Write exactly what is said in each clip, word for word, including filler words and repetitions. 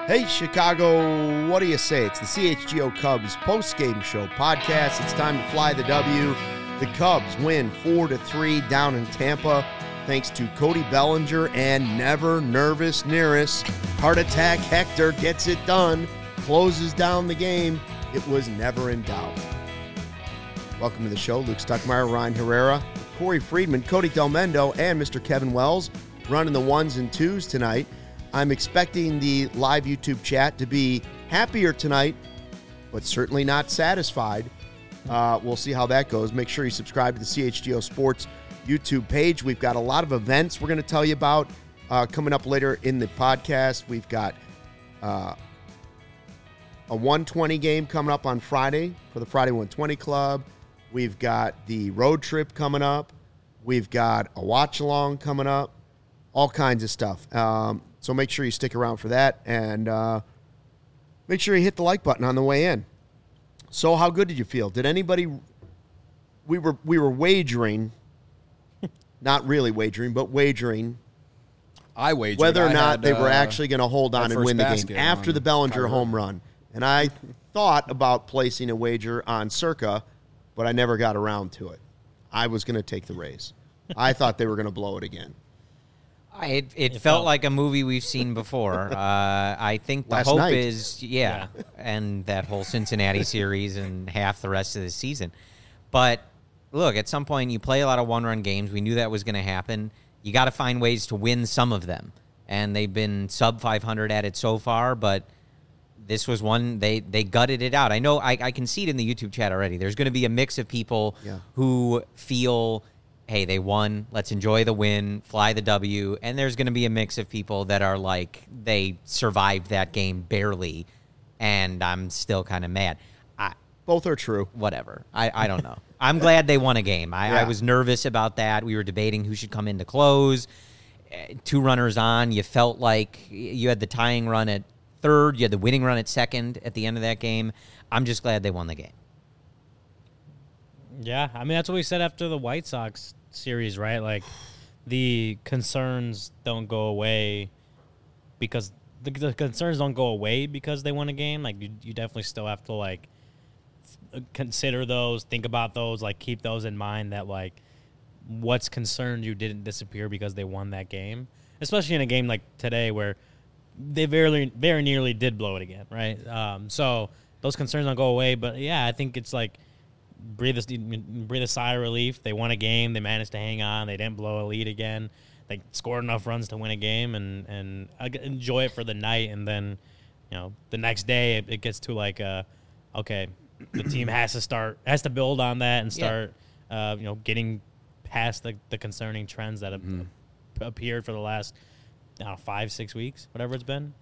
Hey, Chicago, what do you say? It's the C H G O Cubs post-game show podcast. It's time to fly the W. The Cubs win four to three down in Tampa thanks to Cody Bellinger and never nervous Nearest. Heart attack Hector gets it done, closes down the game. It was never in doubt. Welcome to the show. Luke Stuckmeyer, Ryan Herrera, Corey Friedman, Cody Delmendo, and Mister Kevin Wells running the ones and twos tonight. I'm expecting the live YouTube chat to be happier tonight, but certainly not satisfied. Uh, we'll see how that goes. Make sure you subscribe to the C H G O Sports YouTube page. We've got a lot of events we're going to tell you about uh, coming up later in the podcast. We've got uh, a one twenty game coming up on Friday for the Friday one twenty Club. We've got the road trip coming up. We've got a watch-along coming up. All kinds of stuff. Um, so make sure you stick around for that, and uh, make sure you hit the like button on the way in. So how good did you feel? Did anybody – we were we were wagering, not really wagering, but wagering I wagered. whether or I not had, they were uh, actually going to hold on and win the game after the Bellinger home run. And I thought about placing a wager on Circa, but I never got around to it. I was going to take the Rays. I thought they were going to blow it again. It, it, it felt, felt like a movie we've seen before. Uh, I think the Last hope night. is, yeah, yeah, and that whole Cincinnati series and half the rest of the season. But, look, at some point you play a lot of one-run games. We knew that was going to happen. You got to find ways to win some of them. And they've been sub five hundred at it so far, but this was one, they, they gutted it out. I know, I, I can see it in the YouTube chat already. There's going to be a mix of people yeah. who feel, hey, they won, let's enjoy the win, fly the W, and there's going to be a mix of people that are like, they survived that game barely, and I'm still kind of mad. I, Both are true. Whatever. I, I don't know. I'm glad they won a game. I, Yeah. I was nervous about that. We were debating who should come in to close. Uh, Two runners on. You felt like you had the tying run at third. You had the winning run at second at the end of that game. I'm just glad they won the game. Yeah, I mean, that's what we said after the White Sox series, right? Like, the concerns don't go away because the, the concerns don't go away because they won a game. Like, you, you definitely still have to, like, consider those, think about those, like, keep those in mind that, like, what's concerned you didn't disappear because they won that game, especially in a game like today where they very, very nearly did blow it again, right? Um, so those concerns don't go away. But, yeah, I think it's, like, breathe a, breathe a sigh of relief. They won a game. They managed to hang on. They didn't blow a lead again. They scored enough runs to win a game and, and enjoy it for the night. And then, you know, the next day it, it gets to like, uh, okay, the team has to start, has to build on that and start, yeah. uh, you know, getting past the, the concerning trends that have mm. appeared for the last, I don't know, five, six weeks, whatever it's been.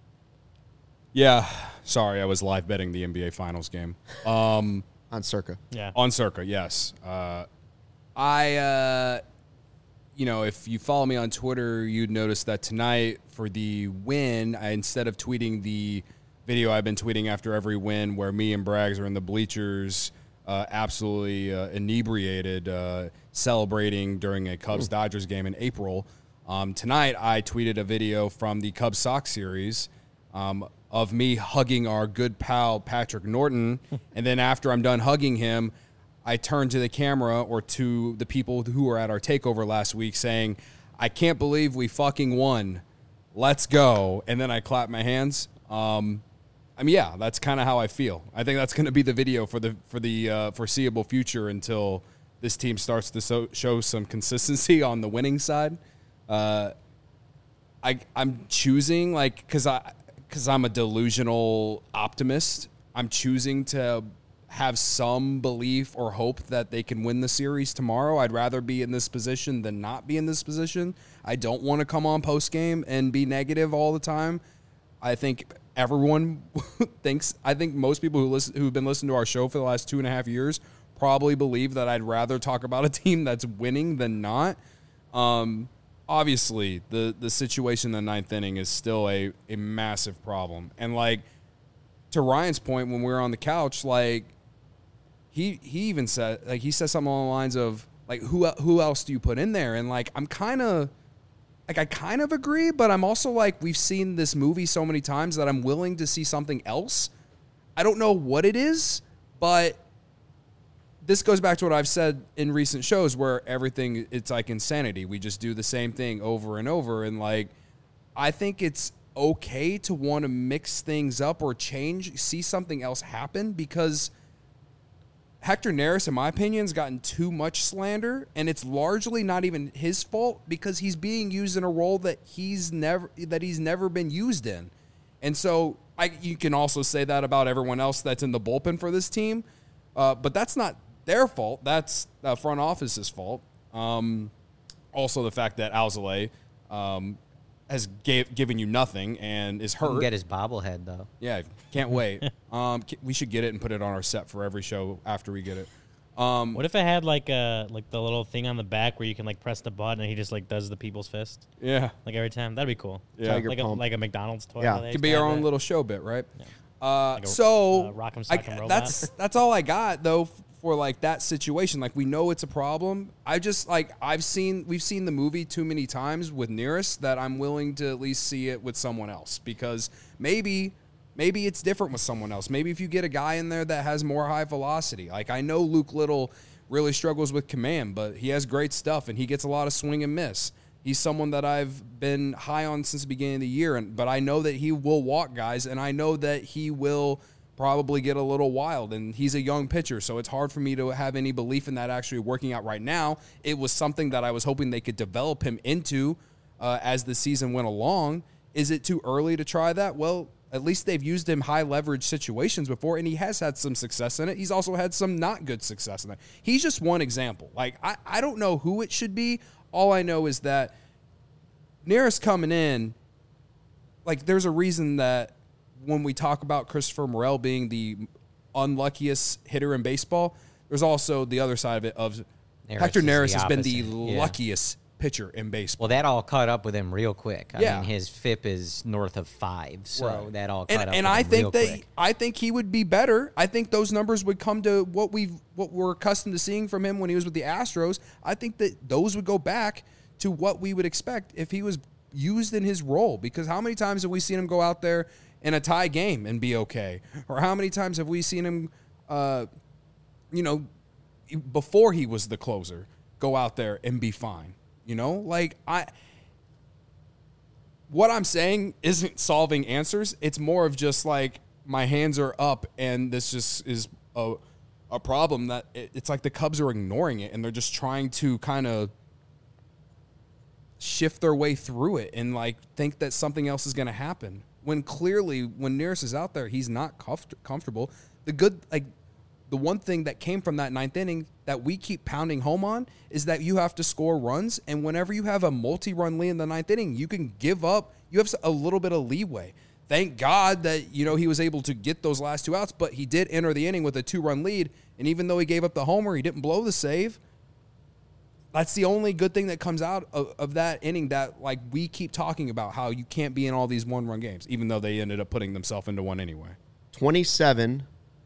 Yeah. Sorry, I was live betting the N B A Finals game. Um, On Circa. Yeah. On Circa, yes. Uh, I, uh, you know, if you follow me on Twitter, you'd notice that tonight for the win, I, instead of tweeting the video I've been tweeting after every win where me and Braggs are in the bleachers uh, absolutely uh, inebriated, uh, celebrating during a Cubs-Dodgers game in April, um, tonight I tweeted a video from the Cubs-Sox series um, of me hugging our good pal Patrick Norton, and then after I'm done hugging him, I turn to the camera or to the people who were at our takeover last week saying, I can't believe we fucking won. Let's go. And then I clap my hands. Um, I mean, yeah, that's kind of how I feel. I think that's going to be the video for the for the uh, foreseeable future until this team starts to so, show some consistency on the winning side. Uh, I, I'm choosing, like, because I... because I'm a delusional optimist, I'm choosing to have some belief or hope that they can win the series tomorrow. I'd rather be in this position than not be in this position. I don't want to come on post-game and be negative all the time. I think everyone thinks, I think most people who listen, who've been listening to our show for the last two and a half years probably believe that I'd rather talk about a team that's winning than not. Um, obviously, the, the situation in the ninth inning is still a, a massive problem. And, like, to Ryan's point when we were on the couch, like, he he even said, like, he said something along the lines of, like, who who else do you put in there? And, like, I'm kind of like I kind of agree, but I'm also like, we've seen this movie so many times that I'm willing to see something else. I don't know what it is, but this goes back to what I've said in recent shows where everything, it's like insanity. We just do the same thing over and over. And like, I think it's okay to want to mix things up or change, see something else happen, because Hector Neris, in my opinion, has gotten too much slander, and it's largely not even his fault because he's being used in a role that he's never that he's never been used in. And so I, you can also say that about everyone else that's in the bullpen for this team, uh, but that's not their fault. That's the front office's fault. Um, also, the fact that Alzolay um, has gave, given you nothing and is hurt. He can get his bobblehead, though. Yeah, can't wait. um, we should get it and put it on our set for every show after we get it. Um, What if it had like a like the little thing on the back where you can like press the button and he just like does the people's fist yeah, like every time? That'd be cool. Yeah. Tiger like a, pump. like a McDonald's toy. Yeah. where they it could be have our own that. little show bit, right? Yeah. Uh, Like a, so uh, Rock'em I- Sock'em Robot. that's that's all I got though f- for like that situation. Like we know it's a problem. I just like I've seen we've seen the movie too many times with Neris that I'm willing to at least see it with someone else, because maybe maybe it's different with someone else. Maybe if you get a guy in there that has more high velocity. Like I know Luke Little really struggles with command, but he has great stuff and he gets a lot of swing and miss. He's someone that I've been high on since the beginning of the year, and but I know that he will walk guys, and I know that he will probably get a little wild, and he's a young pitcher, so it's hard for me to have any belief in that actually working out right now. It was something that I was hoping they could develop him into uh, as the season went along. Is it too early to try that? Well, at least they've used him high leverage situations before, and he has had some success in it. He's also had some not good success in it. He's just one example. Like, I, I don't know who it should be. All I know is that Neris coming in, like, there's a reason that when we talk about Christopher Morel being the unluckiest hitter in baseball, there's also the other side of it of Neris Hector is the Neris has been the opposite. Yeah. luckiest pitcher in baseball. Well, that all caught up with him real quick. I Yeah. mean, his F I P is north of five, so Right. that all caught and, up and with I him think real that quick. I think he would be better. I think those numbers would come to what we've what we're accustomed to seeing from him when he was with the Astros. I think that those would go back to what we would expect if he was used in his role. Because how many times have we seen him go out there in a tie game and be okay? Or how many times have we seen him, uh, you know, before he was the closer, go out there and be fine? You know, like I. What I'm saying isn't solving answers. It's more of just like my hands are up, and this just is a a problem that it, it's like the Cubs are ignoring it, and they're just trying to kind of shift their way through it and like think that something else is going to happen. When clearly, when Neris is out there, he's not comfort- comfortable. The good, like the one thing that came from that ninth inning that we keep pounding home on is that you have to score runs, and whenever you have a multi-run lead in the ninth inning, you can give up. You have a little bit of leeway. Thank God that, you know, he was able to get those last two outs, but he did enter the inning with a two-run lead, and even though he gave up the homer, he didn't blow the save. That's the only good thing that comes out of, of that inning, that, like, we keep talking about how you can't be in all these one-run games, even though they ended up putting themselves into one anyway. twenty-seven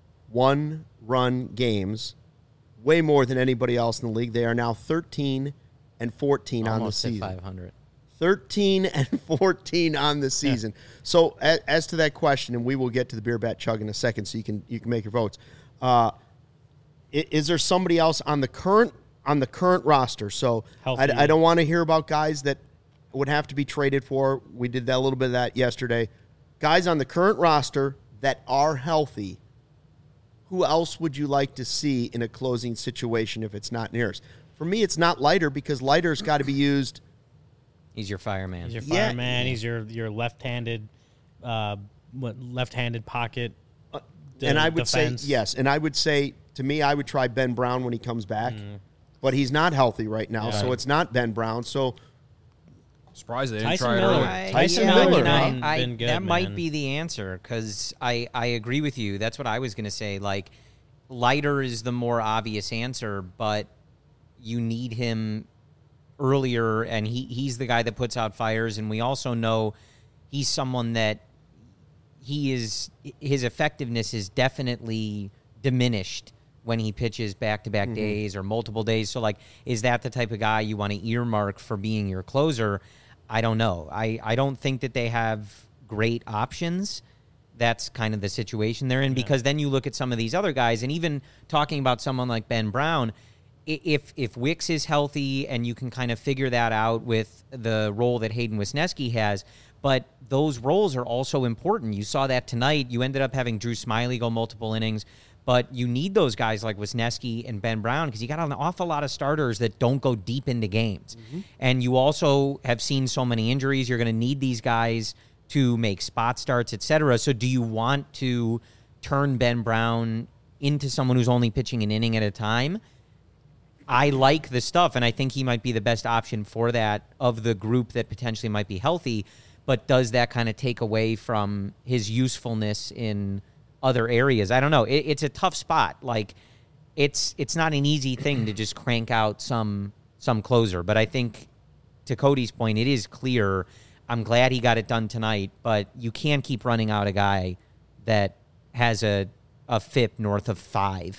one-run games, way more than anybody else in the league. They are now thirteen and fourteen Almost on at the season. five hundred. thirteen and fourteen on the season. Yeah. So as, as to that question, and we will get to the beer bat chug in a second, so you can you can make your votes. Uh, is, is there somebody else on the current on the current roster? So I, I don't want to hear about guys that would have to be traded for. We did that a little bit of that yesterday. Guys on the current roster that are healthy. Who else would you like to see in a closing situation if it's not Neris? For me, it's not Leiter, because Leiter's got to be used. He's your fireman. He's your Yeah. fireman. He's your your left-handed, uh, what left-handed pocket. Uh, de- and I would defense. say, yes, and I would say, to me, I would try Ben Brown when he comes back. Mm. But he's not healthy right now, Yeah. so it's not Ben Brown. So Surprised they didn't Tyson try it Miller. earlier. I- Tyson yeah, Miller, you know, huh? I- Been good, that might man. be the answer, because I, I agree with you. That's what I was going to say. Like, Leiter is the more obvious answer, but you need him earlier, and he, he's the guy that puts out fires, and we also know he's someone that he is his effectiveness is definitely diminished when he pitches back-to-back mm-hmm. days or multiple days. So, like, is that the type of guy you want to earmark for being your closer? I don't know. I, I don't think that they have great options. That's kind of the situation they're in, yeah. because then you look at some of these other guys, and even talking about someone like Ben Brown, if if Wicks is healthy and you can kind of figure that out with the role that Hayden Wesneski has, but those roles are also important. You saw that tonight. You ended up having Drew Smyly go multiple innings, but you need those guys like Wesneski and Ben Brown because you got an awful lot of starters that don't go deep into games. Mm-hmm. And you also have seen so many injuries. You're going to need these guys to make spot starts, et cetera. So do you want to turn Ben Brown into someone who's only pitching an inning at a time? I like the stuff, and I think he might be the best option for that of the group that potentially might be healthy, but does that kind of take away from his usefulness in other areas? I don't know. It, it's a tough spot. Like, it's it's not an easy thing to just crank out some some closer, but I think, to Cody's point, it is clear. I'm glad he got it done tonight, but you can't keep running out a guy that has a, a F I P north of five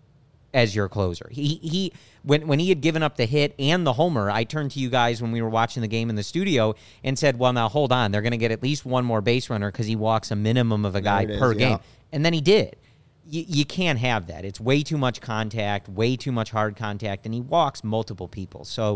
as your closer. He he when when he had given up the hit and the homer, I turned to you guys when we were watching the game in the studio and said, well, now hold on. They're going to get at least one more base runner because he walks a minimum of a guy per is, game. Yeah. And then he did. You, you can't have that. It's way too much contact, way too much hard contact, and he walks multiple people. So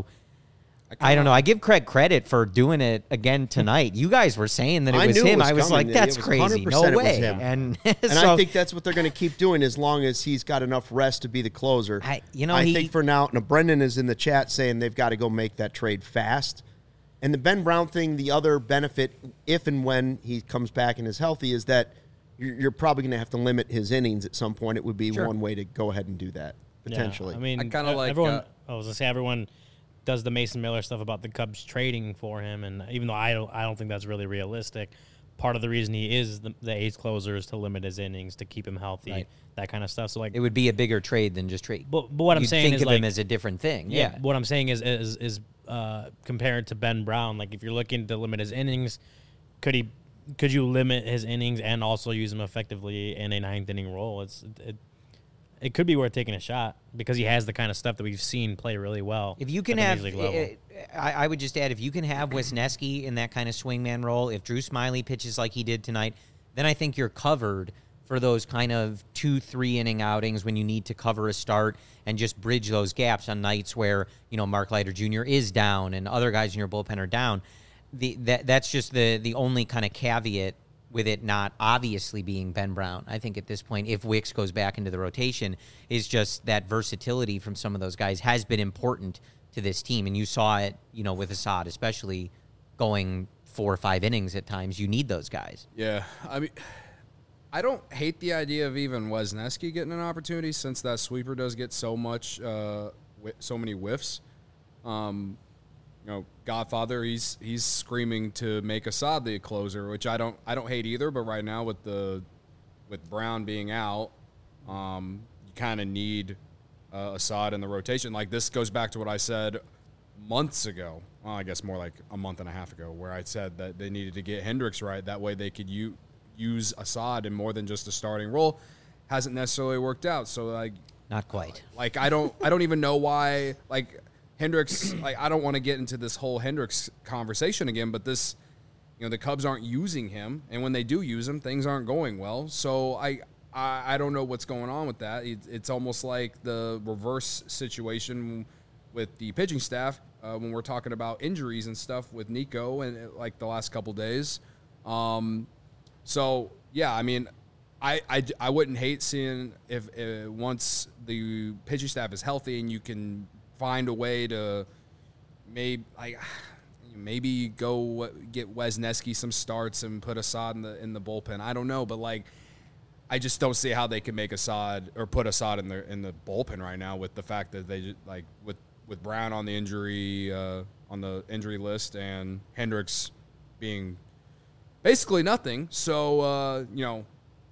I, I don't know. I give Craig credit for doing it again tonight. You guys were saying that it I was knew him. It was I was coming. like, that's crazy. No way. It was him. And, and so, I think that's what they're going to keep doing as long as he's got enough rest to be the closer. I, you know, I he, think for now, now, Brendan is in the chat saying they've got to go make that trade fast. And the Ben Brown thing, the other benefit, if and when he comes back and is healthy, is that you're, you're probably going to have to limit his innings at some point. It would be sure. one way to go ahead and do that, potentially. Yeah, I mean, I kind of like everyone. Uh, I was going to say, everyone does the Mason Miller stuff about the Cubs trading for him, and even though I don't, I don't think that's really realistic. Part of the reason he is the, the ace closer is to limit his innings, to keep him healthy, right. that kind of stuff. So like, it would be a bigger trade than just trade. But, but what I'm You'd saying think is of like, him as a different thing. Yeah, Yeah. What I'm saying is is is uh, compared to Ben Brown, like if you're looking to limit his innings, could he? Could you limit his innings and also use him effectively in a ninth inning role? It's it, it could be worth taking a shot because he has the kind of stuff that we've seen play really well. If you can have, I, I would just add, if you can have Wesneski in that kind of swingman role, if Drew Smyly pitches like he did tonight, then I think you're covered for those kind of two, three inning outings when you need to cover a start and just bridge those gaps on nights where, you know, Mark Leiter Junior is down and other guys in your bullpen are down. The that that's just the the only kind of caveat with it not obviously being Ben Brown. I think at this point, if Wicks goes back into the rotation, is just that versatility from some of those guys has been important to this team. And you saw it, you know, with Assad, especially going four or five innings at times. You need those guys. Yeah. I mean, I don't hate the idea of even Wesneski getting an opportunity since that sweeper does get so much, uh, so many whiffs. Um, You know, Godfather, he's he's screaming to make Assad the closer, which I don't I don't hate either. But right now, with the with Brown being out, um, you kind of need uh, Assad in the rotation. Like this goes back to what I said months ago. Well, I guess more like a month and a half ago, where I said that they needed to get Hendricks right. That way, they could u- use Assad in more than just a starting role. Hasn't necessarily worked out. So like, not quite. Like I don't I don't even know why like. Hendricks, like I don't want to get into this whole Hendricks conversation again, but this, you know, the Cubs aren't using him, and when they do use him, things aren't going well. So I, I, I don't know what's going on with that. It, it's almost like the reverse situation with the pitching staff uh, when we're talking about injuries and stuff with Nico and like the last couple days. Um, so yeah, I mean, I, I, I wouldn't hate seeing if, if once the pitching staff is healthy and you can find a way to maybe like maybe go get Wesneski some starts and put Assad in the in the bullpen. I don't know, but like I just don't see how they can make Assad or put Assad in the in the bullpen right now with the fact that they just, like with with Brown on the injury uh, on the injury list and Hendricks being basically nothing. So uh, you know.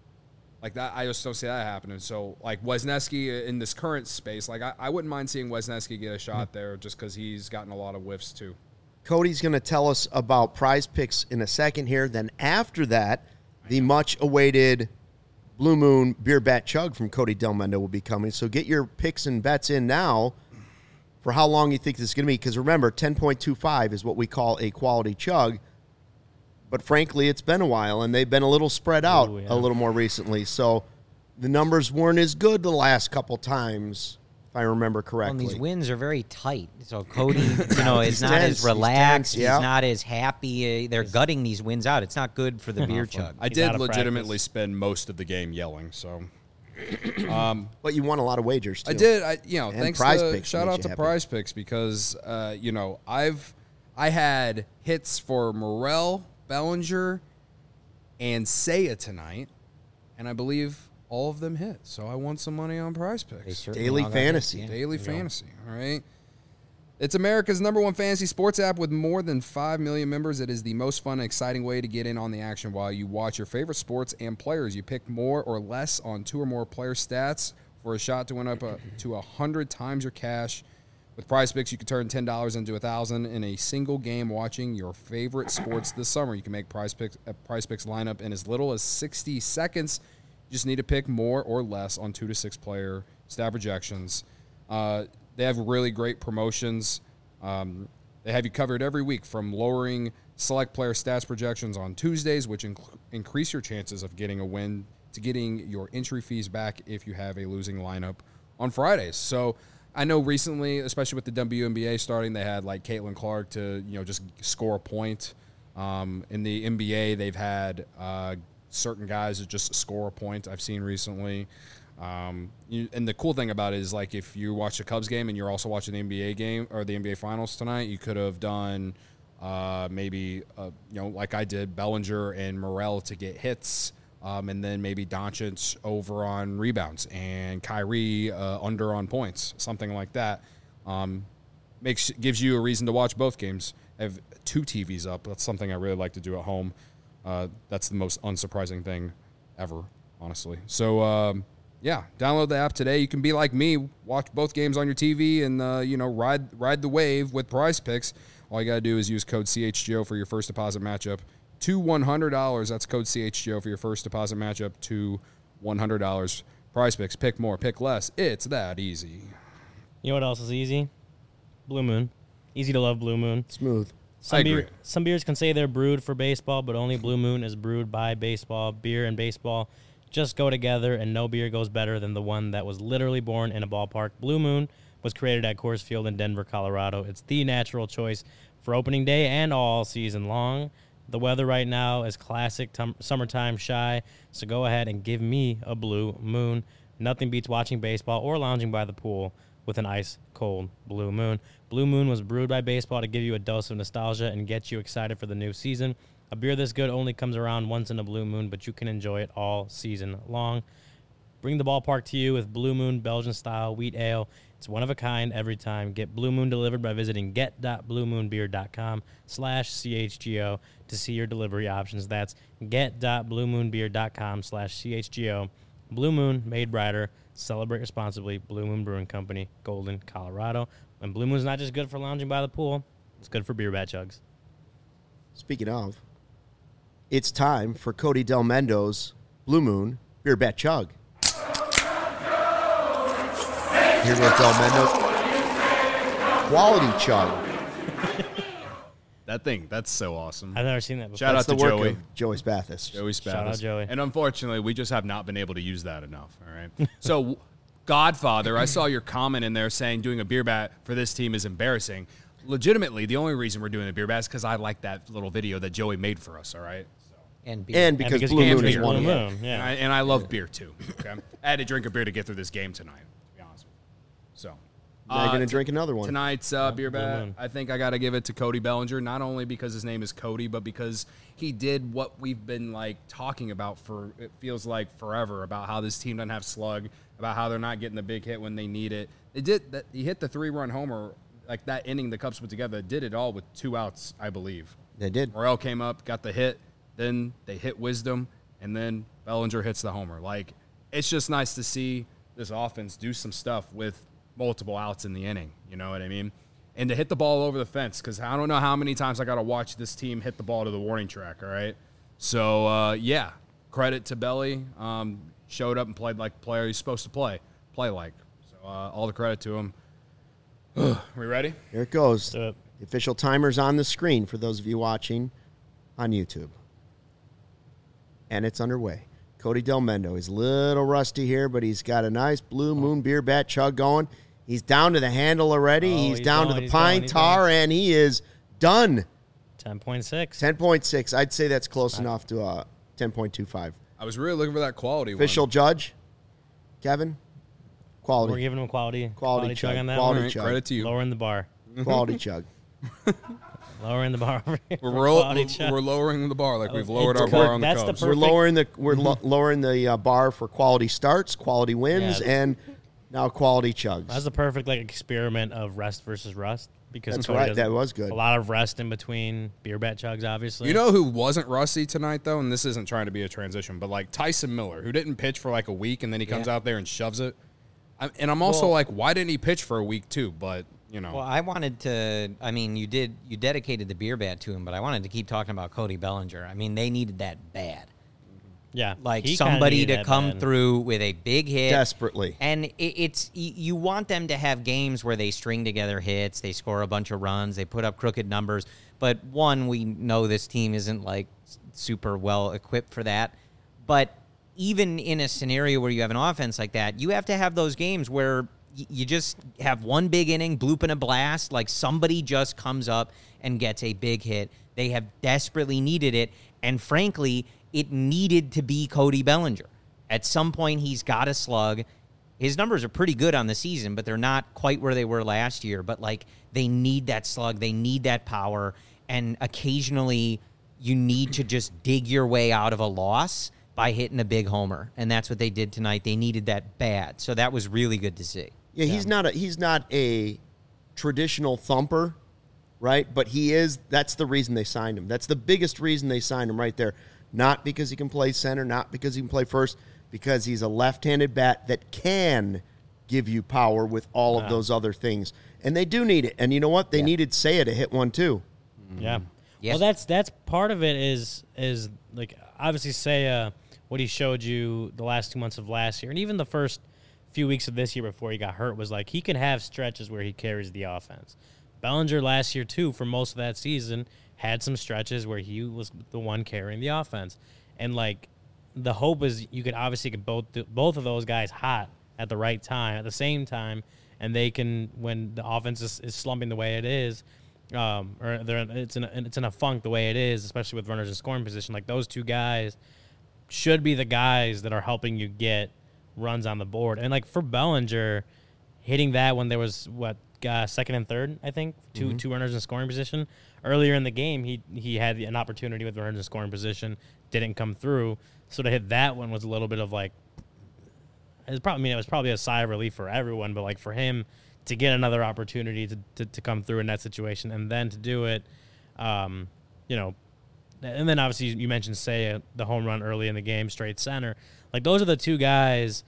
Like that, I just don't see that happening. So, like Wesneski in this current space, like I, I wouldn't mind seeing Wesneski get a shot there, just because he's gotten a lot of whiffs too. Cody's going to tell us about Prize Picks in a second here. Then after that, the much-awaited Blue Moon Beer Bat Chug from Cody Del Mendo will be coming. So get your picks and bets in now for how long you think this is going to be. Because remember, ten point two five is what we call a quality chug. But frankly, it's been a while, and they've been a little spread out Ooh, yeah. a little more recently. So the numbers weren't as good the last couple times, if I remember Well, correctly. and these wins are very tight. So Cody, you know, He's is not tense. as He's relaxed. tense, He's, yeah. not as happy. Uh, They're gutting these wins out. It's not good for the beer chug. I He's did out of legitimately practice. spend most of the game yelling. So But you won a lot of wagers, too. I did. I you know And thanks Prize to Picks shout made out you to happy. Prize Picks because uh, you know I've I had hits for Morel, Bellinger, and Seiya tonight, and I believe all of them hit. So I won some money on Prize They Picks. certainly Daily all got hits, fantasy. yeah. Daily fantasy. All right. It's America's number one fantasy sports app with more than five million members. It is the most fun and exciting way to get in on the action while you watch your favorite sports and players. You pick more or less on two or more player stats for a shot to win up uh, to one hundred times your cash. With Prize Picks, you can turn ten dollars into one thousand dollars in a single game watching your favorite sports this summer. You can make Prize Picks, a Prize Picks lineup in as little as sixty seconds. You just need to pick more or less on two to six player stat projections. Uh, they have really great promotions. Um, they have you covered every week, from lowering select player stats projections on Tuesdays, which inc- increase your chances of getting a win, to getting your entry fees back if you have a losing lineup on Fridays. So I know recently, especially with the W N B A starting, they had like Caitlin Clark to, you know, just score a point. Um, in the N B A, they've had uh, certain guys that just score a point I've seen recently. Um, you, and the cool thing about it is, like, if you watch the Cubs game and you're also watching the N B A game or the N B A Finals tonight, you could have done uh, maybe, uh, you know, like I did, Bellinger and Morel to get hits. Um, and then maybe Doncic over on rebounds and Kyrie uh, under on points, something like that. Um, makes gives you a reason to watch both games. I have two T Vs up. That's something I really like to do at home. Uh, that's the most unsurprising thing ever, honestly. So, um, yeah, download the app today. You can be like me, watch both games on your T V, and uh, you know ride ride the wave with Prize Picks. All you gotta do is use code C H G O for your first deposit matchup to one hundred dollars. That's code C H G O for your first deposit matchup to one hundred dollars. Prize Picks, pick more, pick less. It's that easy. You know what else is easy? Blue Moon. Easy to love Blue Moon. Smooth. Some I beer, agree. Some beers can say they're brewed for baseball, but only Blue Moon is brewed by baseball. Beer and baseball just go together, and no beer goes better than the one that was literally born in a ballpark. Blue Moon was created at Coors Field in Denver, Colorado. It's the natural choice for opening day and all season long. The weather right now is classic tum- summertime shy, so go ahead and give me a Blue Moon. Nothing beats watching baseball or lounging by the pool with an ice-cold Blue Moon. Blue Moon was brewed by baseball to give you a dose of nostalgia and get you excited for the new season. A beer this good only comes around once in a blue moon, but you can enjoy it all season long. Bring the ballpark to you with Blue Moon Belgian-style wheat ale. It's one of a kind every time. Get Blue Moon delivered by visiting get.bluemoonbeer.com slash CHGO to see your delivery options. That's get.bluemoonbeer.com slash CHGO. Blue Moon, made brighter. Celebrate responsibly. Blue Moon Brewing Company, Golden, Colorado. And Blue Moon's not just good for lounging by the pool. It's good for beer bat chugs. Speaking of, it's time for Cody Del Mendo's Blue Moon Beer Bat Chug. Here goes Del Mendo. Quality chug. That thing, that's so awesome. I've never seen that before. Shout That's out the to work Joey. of Joey Spathis. Joey Spathis. Shout out, Joey. And unfortunately, we just have not been able to use that enough. All right. So, Godfather, I saw your comment in there saying doing a beer bat for this team is embarrassing. Legitimately, the only reason we're doing a beer bat is because I like that little video that Joey made for us. All right. So. And beer. And because, because Blue you Moon can't is drink one of Blue them. Moon, yeah. And I, and I love beer too. Okay. I had to drink a beer to get through this game tonight, to be honest with you. So. Now you're going to t- drink another one. Tonight's uh, beer Blue bat, Moon. I think I got to give it to Cody Bellinger, not only because his name is Cody, but because he did what we've been like talking about for, it feels like forever, about how this team doesn't have slug, about how they're not getting the big hit when they need it. They did that. He hit the three-run homer, like that inning the Cubs put together, did it all with two outs, I believe. They did. Morel came up, got the hit, then they hit Wisdom, and then Bellinger hits the homer. Like, it's just nice to see this offense do some stuff with multiple outs in the inning. You know what I mean? And to hit the ball over the fence, because I don't know how many times I got to watch this team hit the ball to the warning track, all right? So, uh, yeah, credit to Belly. Um, showed up and played like the player he's supposed to play, play like. So, uh, all the credit to him. Are we ready? Here it goes. Uh, The official timer's on the screen for those of you watching on YouTube. And it's underway. Cody Delmendo. He's a little rusty here, but he's got a nice Blue Moon beer bat chug going. He's down to the handle already. Oh, he's, he's down going, to the he's pine going, he's tar, and he is done. ten point six. ten point six. I'd say that's close enough to uh, ten point two five. I was really looking for that quality Official one. judge, Kevin. Quality. We're giving him quality. Quality chug chug. on that Quality All right, chug. credit to you. one. Lowering the bar. Quality chug. Lowering the bar. over here We're, for roll, quality we're, chug. we're lowering the bar like we've Oh, lowered it's our good. bar on the That's the Cubs. per- We're Perfect. lowering the we're lo- lowering the uh, bar for quality starts, quality wins, Yeah. and now quality chugs. That's the perfect like experiment of rest versus rust because That's Cody right. does That was good. A lot of rest in between beer bat chugs, obviously. You know who wasn't rusty tonight, though? And this isn't trying to be a transition, but like Tyson Miller, who didn't pitch for like a week, and then he comes Yeah. out there and shoves it. I, and I'm also Well- like, why didn't he pitch for a week, too? But, you know. Well, I wanted to. I mean, you did. You dedicated the beer bat to him, but I wanted to keep talking about Cody Bellinger. I mean, they needed that bad. yeah, Like he kinda somebody needed to that come bad. through with a big hit Desperately. And it, it's y- you want them to have games where they string together hits, they score a bunch of runs, they put up crooked numbers. But one, we know this team isn't like s- super well equipped for that. But even in a scenario where you have an offense like that, you have to have those games where y- you just have one big inning, bloop and a blast, like somebody just comes up and gets a big hit. They have desperately needed it, and frankly, it needed to be Cody Bellinger. At some point, he's got a slug. His numbers are pretty good on the season, but they're not quite where they were last year. But, like, they need that slug. They need that power. And occasionally, you need to just dig your way out of a loss by hitting a big homer. And that's what they did tonight. They needed that bad. So that was really good to see. Yeah, he's not a he's not a traditional thumper, right? But he is. That's the reason they signed him. That's the biggest reason they signed him right there. Not because he can play center, not because he can play first, because he's a left-handed bat that can give you power with all of Wow. those other things. And they do need it. And you know what? They Yeah. needed Seiya to hit one too. Yeah. Yeah. Well, that's that's part of it is is like obviously say uh, what he showed you the last two months of last year, and even the first few weeks of this year before he got hurt was like he can have stretches where he carries the offense. Bellinger last year too, for most of that season, had some stretches where he was the one carrying the offense, and like the hope is you could obviously get both both of those guys hot at the right time at the same time, and they can when the offense is, is slumping the way it is. Um, or they're it's in a, it's in a funk the way it is, especially with runners in scoring position. Like those two guys should be the guys that are helping you get runs on the board. And like for Bellinger, hitting that when there was what uh, second and third, I think two Mm-hmm. two runners in scoring position earlier in the game. He he had an opportunity with runners in scoring position, didn't come through. So to hit that one was a little bit of like, it's probably I mean it was probably a sigh of relief for everyone, but like for him to get another opportunity to, to, to come through in that situation and then to do it, um, you know, and then obviously you mentioned Seiya, the home run early in the game, straight center. Like those are the two guys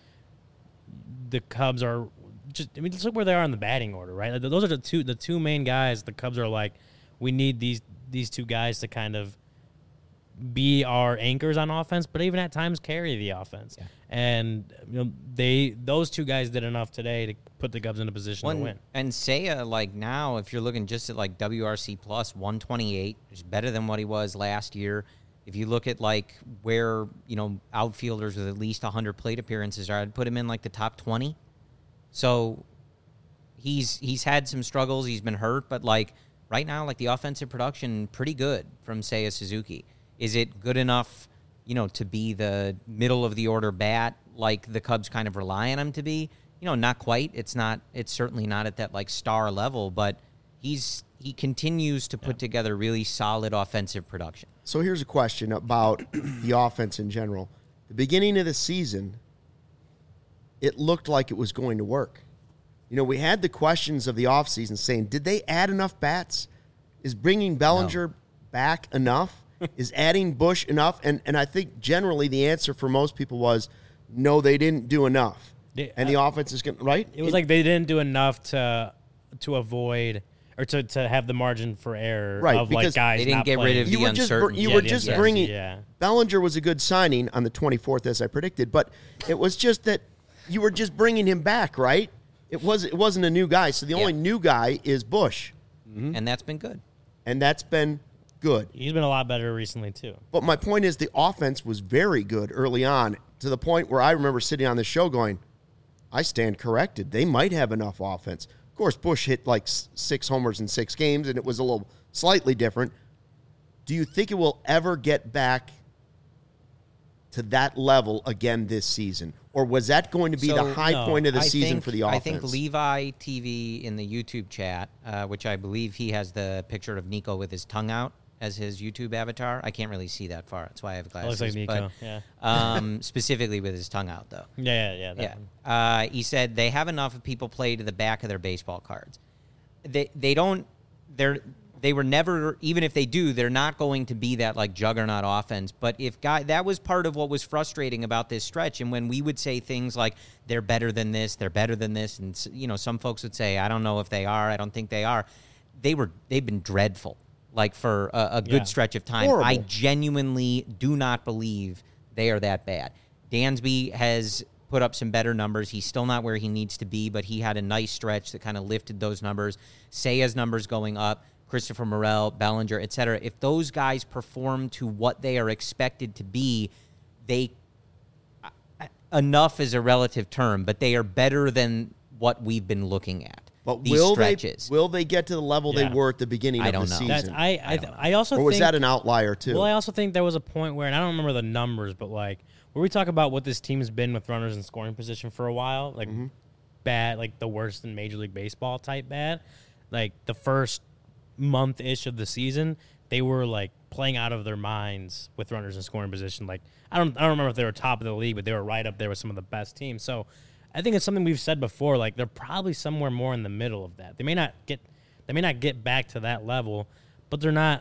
the Cubs are just, I mean, just look where they are in the batting order, right? Like, those are the two the two main guys the Cubs are like, we need these these two guys to kind of be our anchors on offense, but even at times carry the offense. Yeah. And you know, they those two guys did enough today to put the Cubs in a position One, to win. And Seiya, like now, if you're looking just at like W R C plus one twenty-eight, which is better than what he was last year. If you look at like where, you know, outfielders with at least one hundred plate appearances are, I'd put him in like the top twenty. So he's he's had some struggles. He's been hurt, but like right now, like the offensive production, pretty good from Seiya Suzuki. Is it good enough, you know, to be the middle of the order bat like the Cubs kind of rely on him to be? You know, not quite. It's not. It's certainly not at that like star level, but he's he continues to put together really solid offensive production. So here's a question about the offense in general. The beginning of the season, it looked like it was going to work. You know, we had the questions of the offseason saying, did they add enough bats? Is bringing Bellinger back enough? Is adding Bush enough? And and I think generally the answer for most people was, no, they didn't do enough. They- and the offense is going to, right? It was like they didn't do enough to to avoid or to, to have the margin for error Right, of like because guys they didn't not get rid playing. of you the were just br- uncertainty. you Yeah, were the just uncertainty, bringing yeah. Bellinger was a good signing on the twenty-fourth as I predicted, but it was just that you were just bringing him back, right? it was it wasn't a new guy. So the Yeah. only new guy is Bush, Mm-hmm. And that's been good. and that's been good. He's been a lot better recently too. But my point is the offense was very good early on to the point where I remember sitting on the show going, I stand corrected. They might have enough offense. Of course, Bush hit like s- six homers in six games, and it was a little slightly different. Do you think it will ever get back to that level again this season? Or was that going to be So, the high no, point of the I season think, for the offense? I think Levi T V in the YouTube chat, uh, which I believe he has the picture of Nico with his tongue out as his YouTube avatar. I can't really see that far. That's why I have It glasses. looks like Nico. But, yeah. um, specifically with his tongue out, though. Yeah, yeah, yeah. That Yeah. one. Uh, he said they have enough of people play to the back of their baseball cards. They they don't they're they were never, even if they do, they're not going to be that like juggernaut offense. But if guy that was part of what was frustrating about this stretch. And when we would say things like they're better than this, they're better than this, and you know, some folks would say, I don't know if they are, I don't think they are. They were they've been dreadful. Like for a, a good Yeah. stretch of time. Horrible. I genuinely do not believe they are that bad. Dansby has put up some better numbers. He's still not where he needs to be, but he had a nice stretch that kind of lifted those numbers. Saya's numbers going up, Christopher Morel, Bellinger, et cetera. If those guys perform to what they are expected to be, they enough is a relative term, but they are better than what we've been looking at. But these will stretches. they will they get to the level Yeah. they were at the beginning I of don't the know. season? That's I I, th- I also or was think, that an outlier too? Well, I also think there was a point where, and I don't remember the numbers, but like where we talk about what this team's been with runners in scoring position for a while, like Mm-hmm. bad, like the worst in Major League Baseball type bad. Like the first month ish of the season, they were like playing out of their minds with runners in scoring position. Like I don't I don't remember if they were top of the league, but they were right up there with some of the best teams. So I think it's something we've said before. Like they're probably somewhere more in the middle of that. They may not get they may not get back to that level, but they're not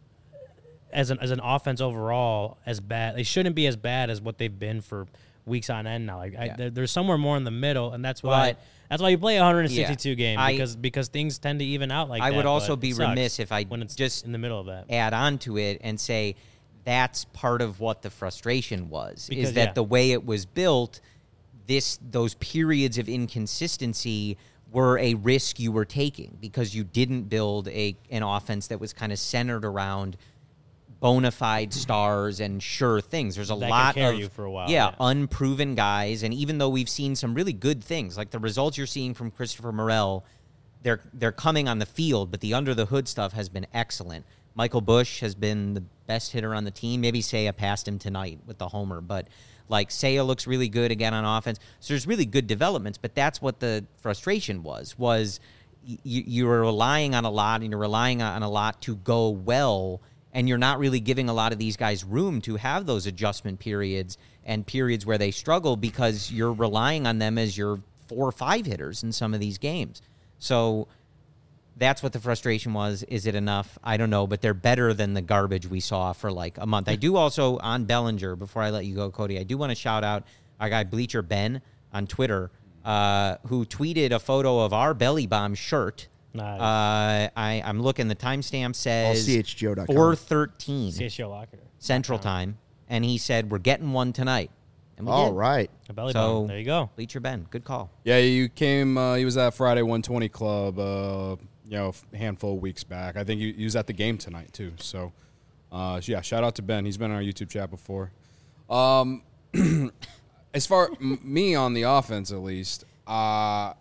as an as an offense overall as bad. They shouldn't be as bad as what they've been for weeks on end now. Like I, Yeah. they're, they're somewhere more in the middle, and that's why But- that's why you play a one hundred sixty-two Yeah. game I- because because things tend to even out like I that. would also but be it sucks remiss if I when it's just in the middle of that. add on to it and say that's part of what the frustration was Because, is that yeah. the way it was built, this those periods of inconsistency were a risk you were taking because you didn't build a an offense that was kind of centered around bona fide stars and sure things. There's a That could lot carry of you for a while, yeah, yeah. unproven guys, and even though we've seen some really good things, like the results you're seeing from Christopher Morel, they're they're coming on the field, but the under the hood stuff has been excellent. Michael Bush has been the best hitter on the team. Maybe Seiya passed him tonight with the homer, but like Seiya looks really good again on offense. So there's really good developments, but that's what the frustration was, was y- you were relying on a lot and you're relying on a lot to go well, and you're not really giving a lot of these guys room to have those adjustment periods and periods where they struggle because you're relying on them as your four or five hitters in some of these games. So that's what the frustration was. Is it enough? I don't know, but they're better than the garbage we saw for like a month. I do also, on Bellinger, before I let you go, Cody, I do want to shout out our guy Bleacher Ben on Twitter, uh, who tweeted a photo of our Belly Bomb shirt. Nice. Uh, I, I'm looking, the timestamp says C H G O dot com. four thirteen C H G O Locker. Central Time, and he said, we're getting one tonight. And we All did. right. A belly So- button. There you go. Bleacher Ben, good call. Yeah, you came. Uh, he was at Friday one twenty Club. Uh, you know, a handful of weeks back. I think he, he was at the game tonight too. So, uh, yeah, shout out to Ben. He's been on our YouTube chat before. Um, as far m- me on the offense, at least, uh,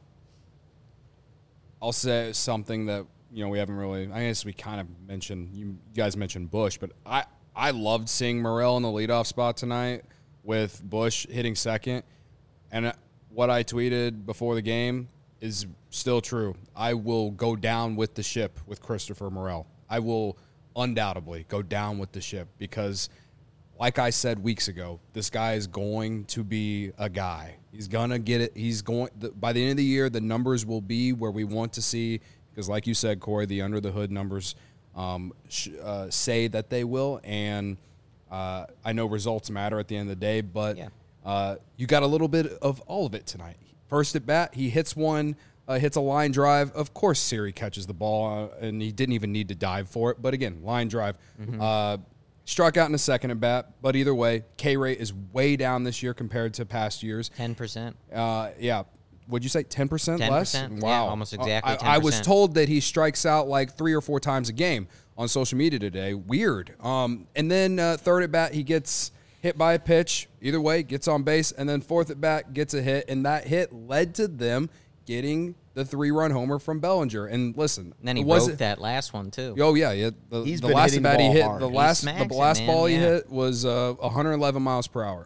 I'll say something that you know we haven't really. I guess we kind of mentioned. You guys mentioned Bush, but I I loved seeing Morel in the leadoff spot tonight with Bush hitting second. And what I tweeted before the game is still true. I will go down with the ship with Christopher Morel. I will undoubtedly go down with the ship because, like I said weeks ago, this guy is going to be a guy. He's going to get it. He's going the, by the end of the year, the numbers will be where we want to see because, like you said, Corey, the under the hood numbers um, sh- uh, say that they will. And uh, I know results matter at the end of the day, but Yeah. uh, you got a little bit of all of it tonight. First at bat, he hits one, uh, hits a line drive. Of course, Siri catches the ball, uh, and he didn't even need to dive for it. But again, line drive. Mm-hmm. Uh, struck out in the second at bat. But either way, K rate is way down this year compared to past years. ten percent. Uh, yeah, What'd you say? ten percent ten less? percent, yeah, Wow. almost exactly I, I was ten percent. told that he strikes out like three or four times a game on social media today. Weird. Um, and then uh, third at bat, he gets hit by a pitch. Either way, gets on base. And then fourth at bat, gets a hit. And that hit led to them getting the three-run homer from Bellinger. And listen, And then he it wasn't- broke that last one, too. Oh yeah, yeah. The, He's the been last hitting the bat he ball hit, hard. the He last smacks the it, last man, ball he yeah. hit was uh, one hundred eleven miles per hour.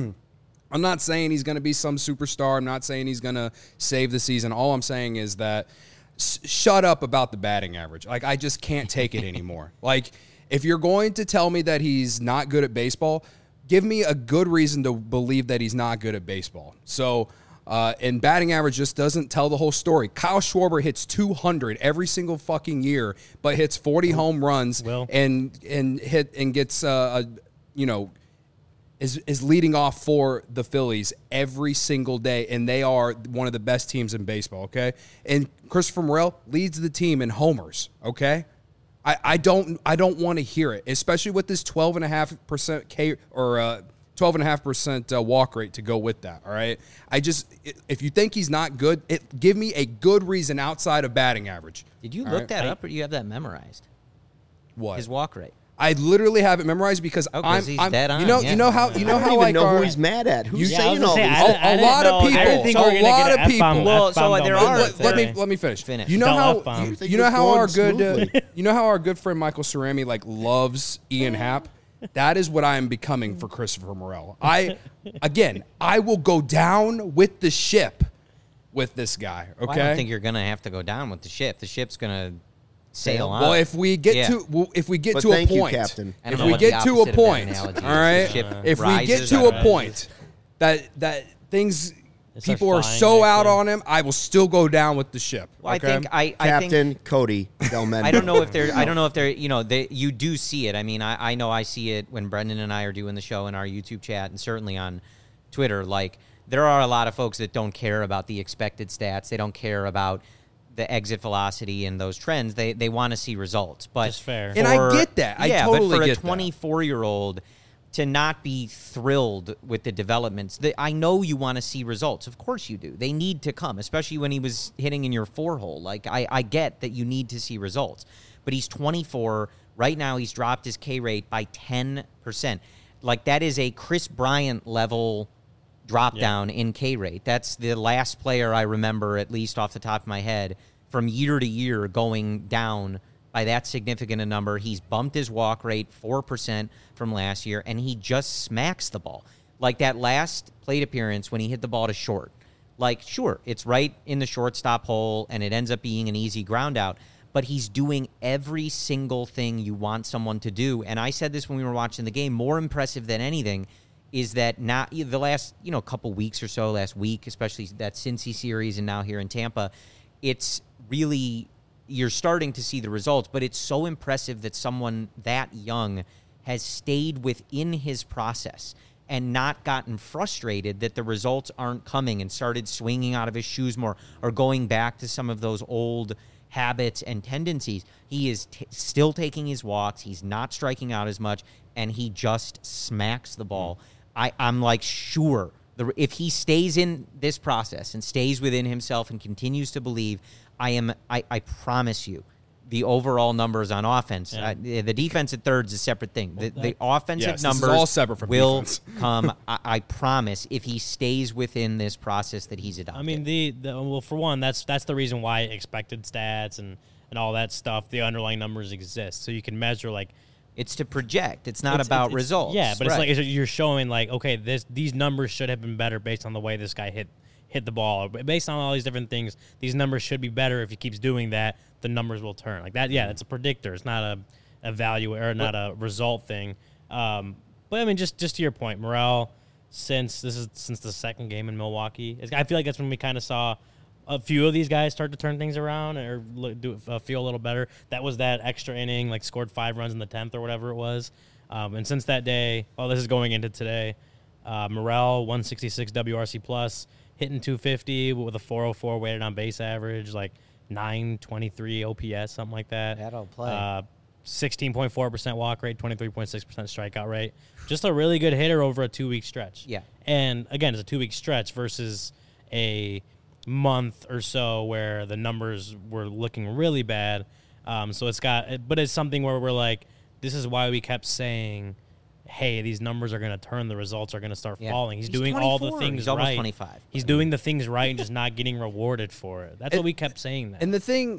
I'm not saying he's going to be some superstar. I'm not saying he's going to save the season. All I'm saying is that s- shut up about the batting average. Like, I just can't take it anymore. Like, if you're going to tell me that he's not good at baseball, give me a good reason to believe that he's not good at baseball. So, uh, and batting average just doesn't tell the whole story. Kyle Schwarber hits two hundred every single fucking year, but hits forty home runs Will. and and hit and gets uh, a, you know, is is leading off for the Phillies every single day, and they are one of the best teams in baseball, okay? And Christopher Morel leads the team in homers, okay? I, I don't I don't want to hear it, especially with this twelve and a half percent K or uh, twelve and a half percent uh, walk rate to go with that, all right? I just, if you think he's not good, it, give me a good reason outside of batting average. Did you All look right? that up, or do you have that memorized? What? His walk rate. I literally have it memorized because Oh, 'cause I'm, he's I'm dead on, you know yeah. you know how you I know don't how even like know our, who he's mad at. Who's You- Yeah, I was saying gonna all say, these? I A- didn't- I a didn't lot of know- I people. didn't think we A were gonna lot get of an F-bomb- people. Well, F-bomb so going there right are- there let, let me today. let me finish. Finish. You know Don't how F-bomb. You think you know it's how going our good smoothly? uh, you know how our good friend Michael Cerami like loves Ian Happ. That is what I am becoming for Christopher Morel. I again, I will go down with the ship with this guy. Okay. Well, I don't think you're going to have to go down with the ship. The ship's going to sail on. Well, if we get Yeah. to well, if we get But to a thank you, point, Captain. I don't if know we what the get to a opposite of that point, analogy all is. right, The ship if we get rises to or a rises. point that that things It starts people are flying so next out to- on him, I will still go down with the ship. Well, I okay? think I, I think Captain Cody Del Mendo. I don't know if they're. I don't know if they're. You know, they. You do see it. I mean, I, I know I see it when Brendan and I are doing the show in our YouTube chat, and certainly on Twitter. Like, there are a lot of folks that don't care about the expected stats. They don't care about the exit velocity and those trends. They they want to see results. But Just fair. And I for- get that. I yeah, totally but for get a that. twenty-four year old to not be thrilled with the developments. The, I know you want to see results. Of course you do. They need to come, especially when he was hitting in your four hole. Like, I, I get that you need to see results. But he's twenty-four. Right now, he's dropped his K rate by ten percent. Like, that is a Chris Bryant level drop Yeah. down in K rate. That's the last player I remember, at least off the top of my head, from year to year going down by that significant a number. He's bumped his walk rate four percent from last year, and he just smacks the ball. Like that last plate appearance when he hit the ball to short. Like, sure, it's right in the shortstop hole, and it ends up being an easy ground out, but he's doing every single thing you want someone to do. And I said this when we were watching the game, more impressive than anything is that not the last, you know, couple weeks or so, last week, especially that Cincy series and now here in Tampa, it's really, you're starting to see the results, but it's so impressive that someone that young has stayed within his process and not gotten frustrated that the results aren't coming and started swinging out of his shoes more or going back to some of those old habits and tendencies. He is t- still taking his walks. He's not striking out as much, and he just smacks the ball. I, I'm like, sure, the, if he stays in this process and stays within himself and continues to believe, I am. I, I promise you, the overall numbers on offense, Yeah. uh, the defense at third is a separate thing. The, the offensive Yes, this is numbers all separate from will defense. come. I, I promise, if he stays within this process that he's adopted. I mean, the, the well, for one, that's that's the reason why expected stats and, and all that stuff, the underlying numbers exist, so you can measure like. it's to project. It's not It's- about it's- results. Yeah, but Right. it's like it's, you're showing like, okay, this these numbers should have been better based on the way this guy hit hit the ball. Based on all these different things, these numbers should be better. If he keeps doing that, the numbers will turn like that. Yeah, it's a predictor. It's not a, a value or not a result thing. Um, but I mean, just just to your point, Morel, since this is since the second game in Milwaukee, it's, I feel like that's when we kind of saw a few of these guys start to turn things around or look, do uh, feel a little better. That was that extra inning, like scored five runs in the tenth or whatever it was. Um, and since that day, well, this is going into today, uh, Morel, one sixty-six W R C plus, hitting two fifty with a four oh four weighted on base average, like nine twenty-three O P S, something like that. That'll play. Uh, sixteen point four percent walk rate, twenty-three point six percent strikeout rate. Just a really good hitter over a two-week stretch. Yeah. And, again, it's a two-week stretch versus a month or so where the numbers were looking really bad. Um, so it's got, but it's something where we're like, this is why we kept saying, hey, these numbers are going to turn, the results are going to start Yeah. falling. He's, He's doing all the twenty-four. things He's right. almost twenty-five. He's doing the things right and just not getting rewarded for it. That's And- what we kept saying. That. And the thing,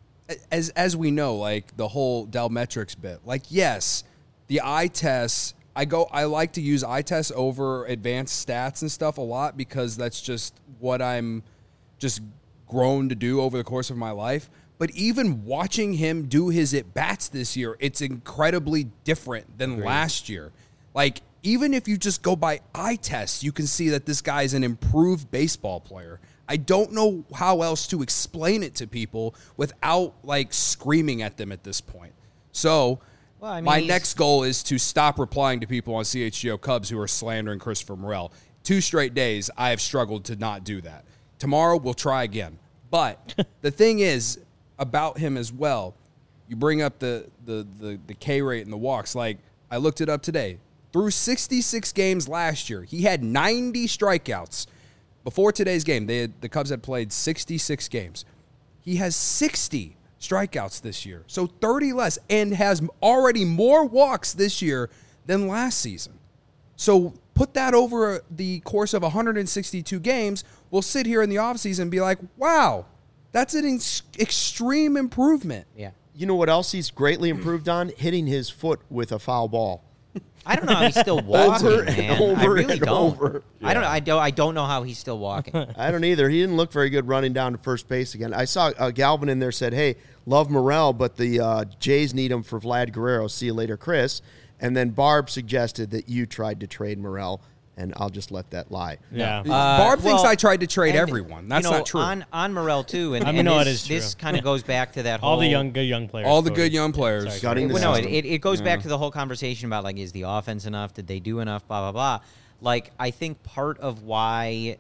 as as we know, like the whole Delmetrics bit, like yes, the eye tests. I go. I like to use eye tests over advanced stats and stuff a lot because that's just what I'm just grown to do over the course of my life. But even watching him do his at bats this year, it's incredibly different than Agreed. last year. Like even if you just go by eye tests, you can see that this guy is an improved baseball player. I don't know how else to explain it to people without like screaming at them at this point. So Well, I mean, my he's- next goal is to stop replying to people on C H G O Cubs who are slandering Christopher Morel. Two straight days, I have struggled to not do that. Tomorrow, we'll try again. But the thing is about him as well, you bring up the, the, the, the K rate and the walks. Like, I looked it up today. Through sixty-six games last year, he had ninety strikeouts. Before today's game, they had, the Cubs had played sixty-six games. He has sixty strikeouts this year, so thirty less, and has already more walks this year than last season. So put that over the course of one hundred sixty-two games, we'll sit here in the offseason and be like, wow, that's an ex- extreme improvement. Yeah. You know what else he's greatly improved on? Hitting his foot with a foul ball. I don't know how he's still walking, Over and man. I over really and don't. over. I don't. I don't. I don't know how he's still walking. I don't either. He didn't look very good running down to first base again. I saw uh, Galvin in there said, hey, love Morel, but the uh, Jays need him for Vlad Guerrero. See you later, Chris. And then Barb suggested that you tried to trade Morel, and I'll just let that lie. yeah. Uh, Barb thinks well, I tried to trade and, everyone. That's you know, not true. On on Morel too, and, I mean, and no, this, it is this true. kind of goes back to that whole all the young, good young players. All the Cody. good young players. Sorry, Gutting Cody. the Well, no, it, system. it, it goes back to the whole conversation about, like, is the offense enough? Did they do enough? Blah, blah, blah. Like, I think part of why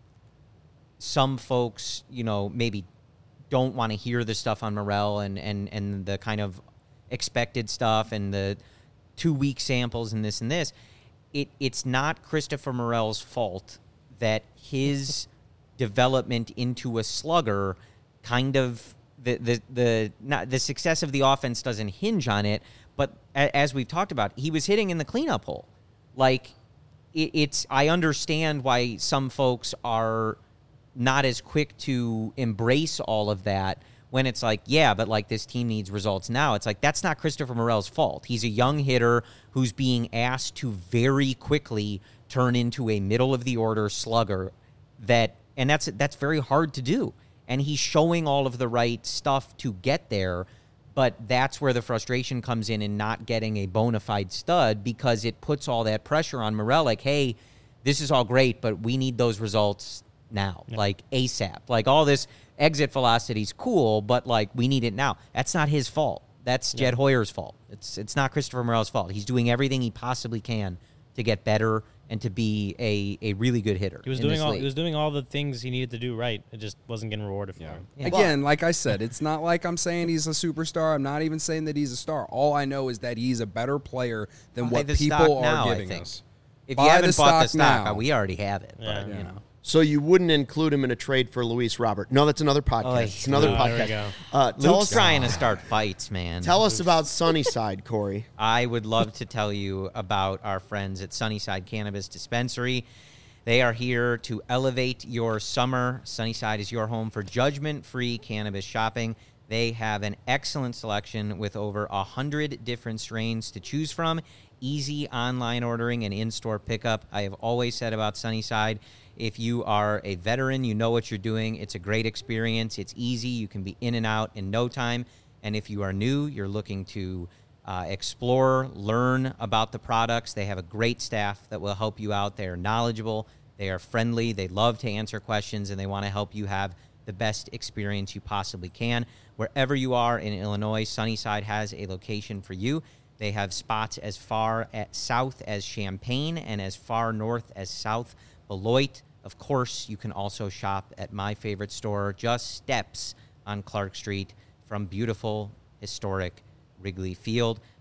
some folks, you know, maybe don't want to hear the stuff on Morel and, and, and the kind of expected stuff and the two-week samples and this and this, it it's not Christopher Morel's fault that his development into a slugger kind of the the the not the success of the offense doesn't hinge on it, but a, as we've talked about, he was hitting in the cleanup hole. Like it, it's I understand why some folks are not as quick to embrace all of that when it's like, yeah, but like this team needs results now. It's like that's not Christopher Morel's fault. He's a young hitter who's being asked to very quickly turn into a middle of the order slugger that and that's that's very hard to do. And he's showing all of the right stuff to get there, but that's where the frustration comes in in not getting a bona fide stud because it puts all that pressure on Morel like, hey, this is all great, but we need those results now, yeah. like ASAP. Like all this exit velocity is cool, but like we need it now. That's not his fault. That's yeah. Jed Hoyer's fault. It's it's not Christopher Morel's fault. He's doing everything he possibly can to get better and to be a, a really good hitter. He was in doing this all league. he was doing all the things he needed to do right. It just wasn't getting rewarded for Yeah. him. Yeah. Again, like I said, it's not like I'm saying he's a superstar. I'm not even saying that he's a star. All I know is that he's a better player than Buy what the stock people are now, I giving think. us. If Buy you haven't the bought the stock stock, now. we already have it. Yeah. But, Yeah. you know. So you wouldn't include him in a trade for Luis Robert? No, that's another podcast. Oh, it's another oh, there we podcast. go. Uh, tell Luke's us, trying to start fights, man. tell us about Sunnyside, Corey. I would love to tell you about our friends at Sunnyside Cannabis Dispensary. They are here to elevate your summer. Sunnyside is your home for judgment-free cannabis shopping. They have an excellent selection with over one hundred different strains to choose from. Easy online ordering and in-store pickup. I have always said about Sunnyside, if you are a veteran, you know what you're doing. It's a great experience. It's easy. You can be in and out in no time. And if you are new, you're looking to uh, explore, learn about the products, they have a great staff that will help you out. They are knowledgeable. They are friendly. They love to answer questions, and they want to help you have the best experience you possibly can. Wherever you are in Illinois, Sunnyside has a location for you. They have spots as far at south as Champaign and as far north as South Beloit. Of course, you can also shop at my favorite store, just steps on Clark Street from beautiful, historic Wrigley Field.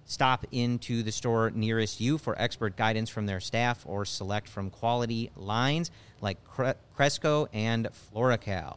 Stop into the store nearest you for expert guidance from their staff or select from quality lines like Cre- Cresco and Floracal.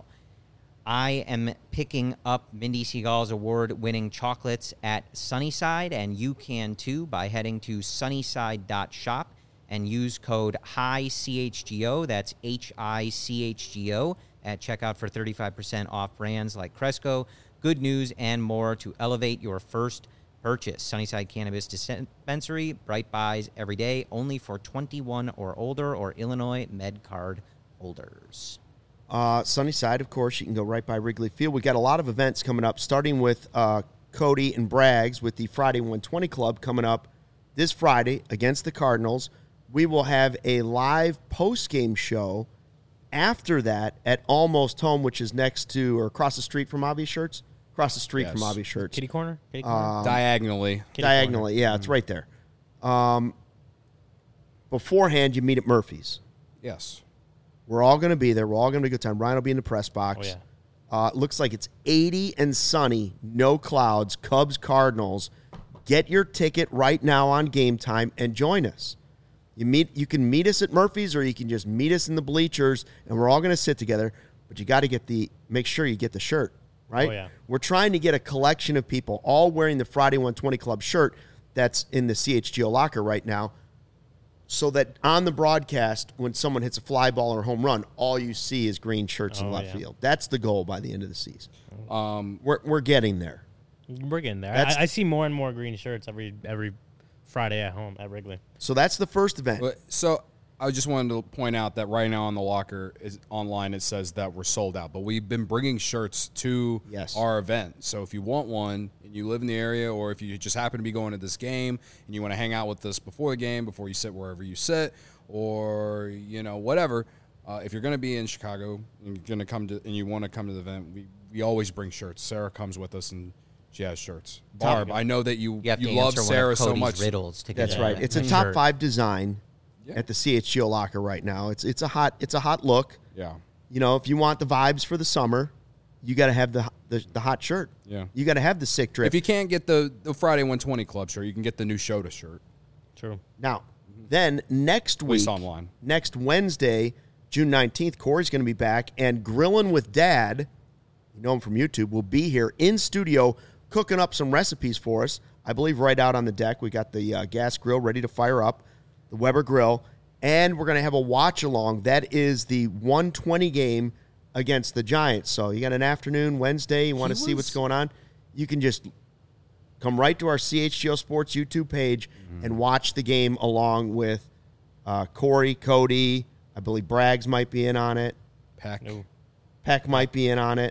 I am picking up Mindy Seagal's award-winning chocolates at Sunnyside, and you can too by heading to sunnyside dot shop and use code H I C H G O, that's H I C H G O, at checkout for thirty-five percent off brands like Cresco, Good News, and more to elevate your first purchase. Sunnyside Cannabis Dispensary, bright buys every day, only for twenty-one or older or Illinois MedCard holders. Uh, Sunnyside, of course, you can go right by Wrigley Field. We got a lot of events coming up, starting with uh, Cody and Braggs with the Friday one twenty Club coming up this Friday against the Cardinals. We will have a live post-game show after that at Almost Home, which is next to or across the street from Obvious Shirts. Across the street Yes. from Obvious Shirts. Kitty corner? Kitty corner? Diagonally. Kitty Diagonally, corner. yeah, it's right there. Um, beforehand, you meet at Murphy's. Yes. We're all going to be there. We're all going to be a good time. Ryan will be in the press box. Oh, yeah. Uh, it looks like it's eighty and sunny, no clouds, Cubs, Cardinals. Get your ticket right now on Game Time and join us. You meet. You can meet us at Murphy's, or you can just meet us in the bleachers, and we're all going to sit together. But you got to get the make sure you get the shirt, right? Oh, yeah. We're trying to get a collection of people all wearing the Friday one twenty Club shirt that's in the C H G O locker right now, so that on the broadcast, when someone hits a fly ball or a home run, all you see is green shirts in Oh, left yeah. field. That's the goal by the end of the season. Um, We're we're getting there. We're getting there. That's- I, I see more and more green shirts every every Friday at home at Wrigley. So that's the first event. but- so I just wanted to point out that right now on the locker is online it says that we're sold out, but we've been bringing shirts to Yes. our event. So if you want one and you live in the area, or if you just happen to be going to this game and you want to hang out with us before the game, before you sit wherever you sit, or you know whatever, uh, if you're going to be in Chicago and you're going to come to and you want to come to the event, we we always bring shirts. Sarah comes with us and she has shirts. Barb, I know that you You have to love answer Sarah one of so Cody's much. riddles to get That's that right. It's a shirt. top five design Yeah. at the C H G O locker right now. It's it's a hot it's a hot look. Yeah. You know, if you want the vibes for the summer, you got to have the, the the hot shirt. Yeah. You got to have the sick drip. If you can't get the, the Friday one twenty Club shirt, you can get the new Shota shirt. True. Now, then next At week, least online. next Wednesday, June nineteenth, Corey's going to be back, and Grillin' with Dad, you know him from YouTube, will be here in studio cooking up some recipes for us. I believe right out on the deck, we got the uh, gas grill ready to fire up, the Weber grill, and we're going to have a watch-along. That is the one twenty game against the Giants. So you got an afternoon, Wednesday, you want to He see was- what's going on, you can just come right to our C H G O Sports YouTube page and watch the game along with uh, Corey, Cody. I believe Braggs might be in on it. Pack. No. Peck might be in on it.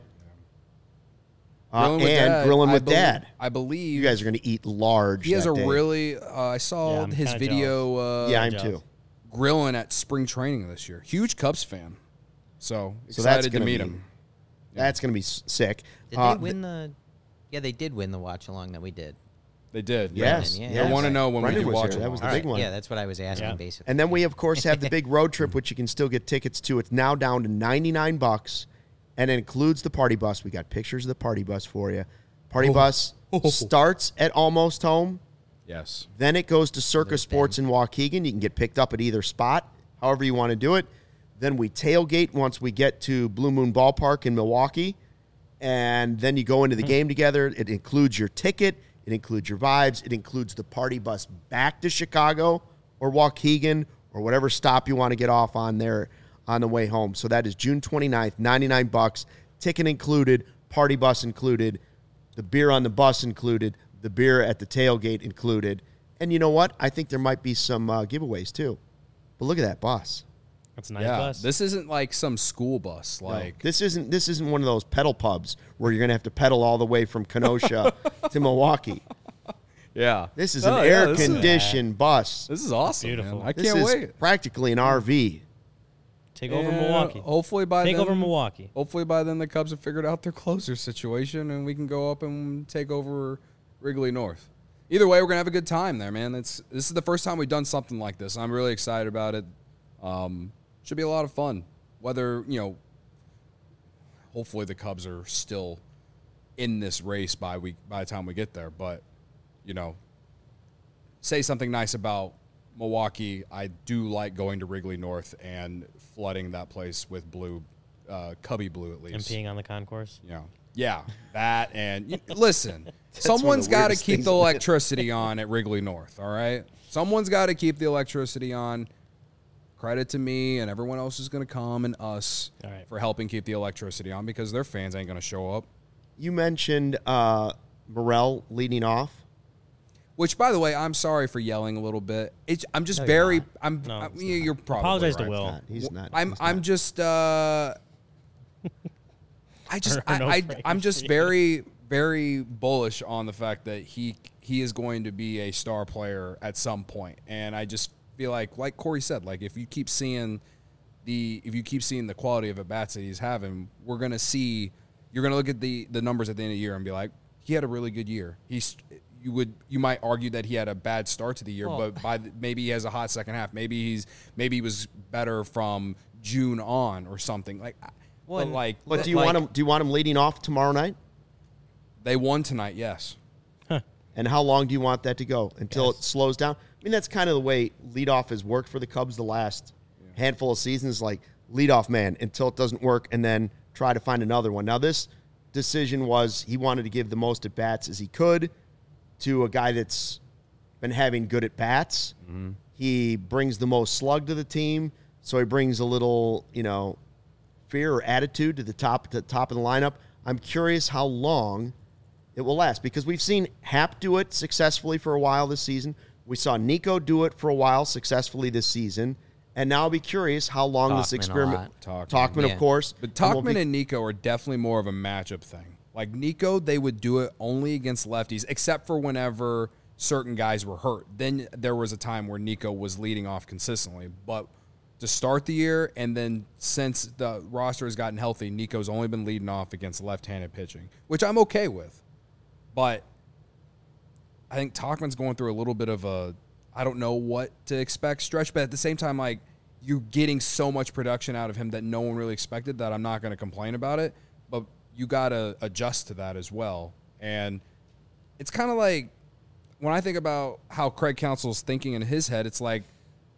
Uh, Grilling with and Dad, Grilling I with belie- Dad. I believe You guys are going to eat large. He has that a day. really. Uh, I saw Yeah, I'm his kinda video. Uh, Yeah, I'm jealous. too. grilling at spring training this year. Huge Cubs fan. So So that's excited to gonna meet be- him. That's going to be s- sick. Did Uh, they win the? Yeah, they did win the watch along that we did. They did. Yes. yeah, yes. I want to know when Brendan we do was watch here. it. That was the All big right, one. yeah, that's what I was asking, Yeah. basically. And then we, of course, have the big road trip, which you can still get tickets to. It's now down to ninety-nine bucks, and it includes the party bus. We got pictures of the party bus for you. Party bus starts at Almost Home. Yes. Then it goes to Circus Sports in Waukegan. You can get picked up at either spot, however you want to do it. Then we tailgate once we get to Blue Moon Ballpark in Milwaukee. And then you go into the game together. It includes your ticket. It includes your vibes. It includes the party bus back to Chicago or Waukegan or whatever stop you want to get off on there on the way home. So that is June twenty-ninth, ninety-nine bucks. Ticket included, party bus included, the beer on the bus included, the beer at the tailgate included. And you know what? I think there might be some uh, giveaways too. But look at that bus. That's a nice Yeah. bus. This isn't like some school bus. No, Like this isn't this isn't one of those pedal pubs where you're going to have to pedal all the way from Kenosha to Milwaukee. yeah. This is Oh, an yeah, air this is- conditioned bus. This is awesome. Beautiful. Man. I This can't is wait. practically an R V. Take over And Milwaukee. Hopefully by Take then, over Milwaukee. Hopefully by then the Cubs have figured out their closer situation and we can go up and take over Wrigley North. Either way, we're gonna have a good time there, man. It's this is the first time we've done something like this. I'm really excited about it. Um, should be a lot of fun. Whether you know, hopefully the Cubs are still in this race by we by the time we get there. But you know, say something nice about Milwaukee, I do like going to Wrigley North and flooding that place with blue, uh, Cubby blue at least. And peeing on the concourse. You know, yeah, that and you, listen, someone's the got to weirdest keep things the in it. electricity on at Wrigley North. All right, someone's got to keep the electricity on. Credit to me and everyone else is going to come and us All right. for helping keep the electricity on because their fans ain't going to show up. You mentioned uh, Morel leading off. Which, by the way, I'm sorry for yelling a little bit. It's, I'm just No, you're very. not. I'm. No, I it's mean, you're probably Apologize to right. Will. Not- he's not. I'm. he's I'm not. just. Uh, I just. Or I, no I, praise. I'm just very, very bullish on the fact that he he is going to be a star player at some point, and I just feel like, like Corey said, like if you keep seeing the if you keep seeing the quality of at bats that he's having, we're gonna see. You're gonna look at the the numbers at the end of the year and be like, he had a really good year. He's. You would you might argue that he had a bad start to the year, Well- but by the, maybe he has a hot second half. Maybe he's maybe he was better from June on or something like. Well, but and- like, But do you Like- want him? Do you want him leading off tomorrow night? they won tonight, yes. And how long do you want that to go until it slows down? I mean, that's kind of the way leadoff has worked for the Cubs the last handful of seasons. Like leadoff man until it doesn't work, and then try to find another one. Now this decision was he wanted to give the most at bats as he could to a guy that's been having good at bats. Mm-hmm. He brings the most slug to the team, so he brings a little, you know, fear or attitude to the top to the top of the lineup. I'm curious how long it will last because we've seen Hap do it successfully for a while this season. We saw Nico do it for a while successfully this season. And now I'll be curious how long this Talkman a experiment. lot. Talkman, Talkman, of yeah. course. But and we'll Talkman be- and Nico are definitely more of a matchup thing. Like Nico, they would do it only against lefties, except for whenever certain guys were hurt. Then there was a time where Nico was leading off consistently. But to start the year, and then since the roster has gotten healthy, Nico's only been leading off against left-handed pitching, which I'm okay with. But I think Talkman's going through a little bit of a, I don't know what to expect stretch, but at the same time, like, you're getting so much production out of him that no one really expected that I'm not going to complain about it. But you got to adjust to that as well. And it's kind of like when I think about how Craig Counsell's thinking in his head, it's like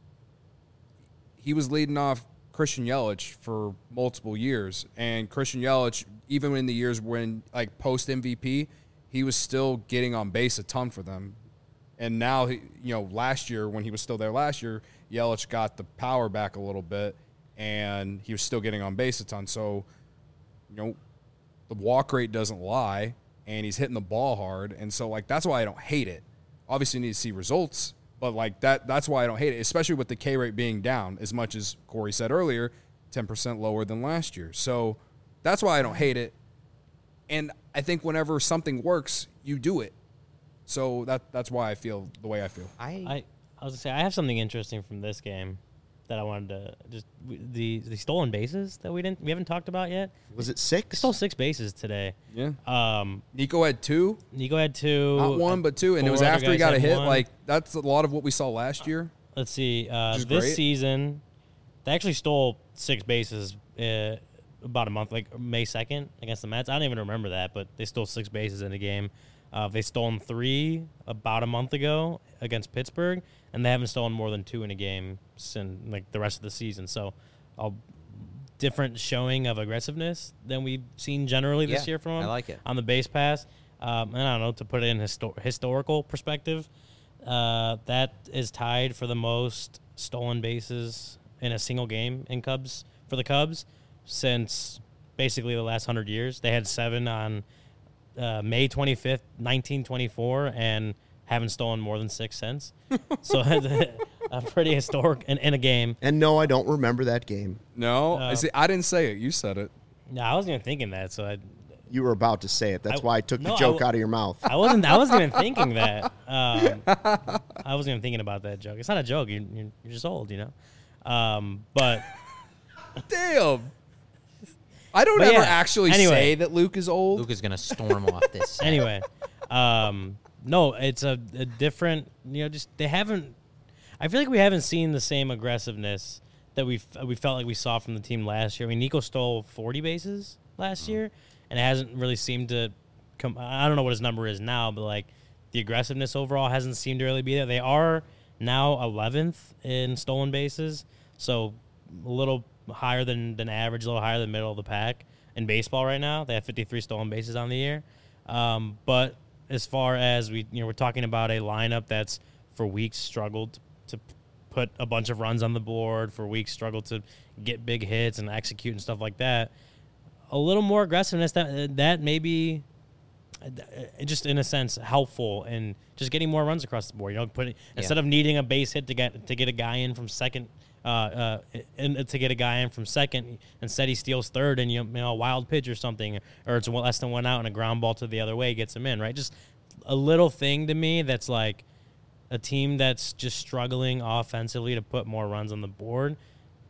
he was leading off Christian Yelich for multiple years. And Christian Yelich, even in the years when, like, post-M V P, he was still getting on base a ton for them. And now, he, you know, last year, when he was still there last year, Yelich got the power back a little bit, and he was still getting on base a ton. So, you know, the walk rate doesn't lie, and he's hitting the ball hard. And so, like, that's why I don't hate it. Obviously, you need to see results, but, like, that that's why I don't hate it, especially with the K rate being down, as much as Corey said earlier, ten percent lower than last year. So that's why I don't hate it. And I think whenever something works, you do it. So that that's why I feel the way I feel. I, I, I was gonna say I have something interesting from this game that I wanted to just the the stolen bases that we didn't we haven't talked about yet. Was it We six? stole six bases today. Yeah. Um, Nico had two, Nico had two, not one, but two, and it four was other after he guys got a had hit. one. Like, that's a lot of what we saw last year. Let's see. Uh, Which is this great. season, they actually stole six bases uh, about a month, like May second against the Mets. I don't even remember that, but they stole six bases in a game. Uh, they stolen three about a month ago against Pittsburgh, and they haven't stolen more than two in a game since like the rest of the season. So, a different showing of aggressiveness than we've seen generally this Yeah, year from I them like it. on the base pass. Um, and I don't know, to put it in histo- historical perspective, uh, that is tied for the most stolen bases in a single game in Cubs for the Cubs since basically the last hundred years. They had seven on uh, May twenty-fifth, nineteen twenty-four, and haven't stolen more than six since. So a pretty historic in, in a game. And no, I don't remember that game. No, I Uh, see. I didn't say it. You said it. No, I wasn't even thinking that. So I, You were about to say it. That's I- why I took no, the I joke w- out of your mouth. I wasn't. I wasn't even thinking that. Um, I wasn't even thinking about that joke. It's not a joke. You, you're, you're just old, you know. Um, but Damn. I don't But ever yeah, actually anyway. say that Luke is old. Luke is gonna storm off this. anyway, um, no, it's a, a different. You know, just they haven't. I feel like we haven't seen the same aggressiveness that we we felt like we saw from the team last year. I mean, Nico stole forty bases last year, and it hasn't really seemed to come. I don't know what his number is now, but like the aggressiveness overall hasn't seemed to really be there. They are now eleventh in stolen bases, so a little higher than, than average, a little higher than middle of the pack in baseball right now. They have fifty-three stolen bases on the year. Um, but as far as we, you know, we're talking about a lineup that's for weeks struggled to put a bunch of runs on the board, for weeks struggled to get big hits and execute and stuff like that. A little more aggressiveness that that may be just in a sense helpful in just getting more runs across the board. You know, putting yeah. instead of needing a base hit to get to get a guy in from second, uh, uh, in, to get a guy in from second, instead he steals third and you know a wild pitch or something, or it's less than one out and a ground ball to the other way gets him in. Right, just a little thing to me that's like a team that's just struggling offensively to put more runs on the board.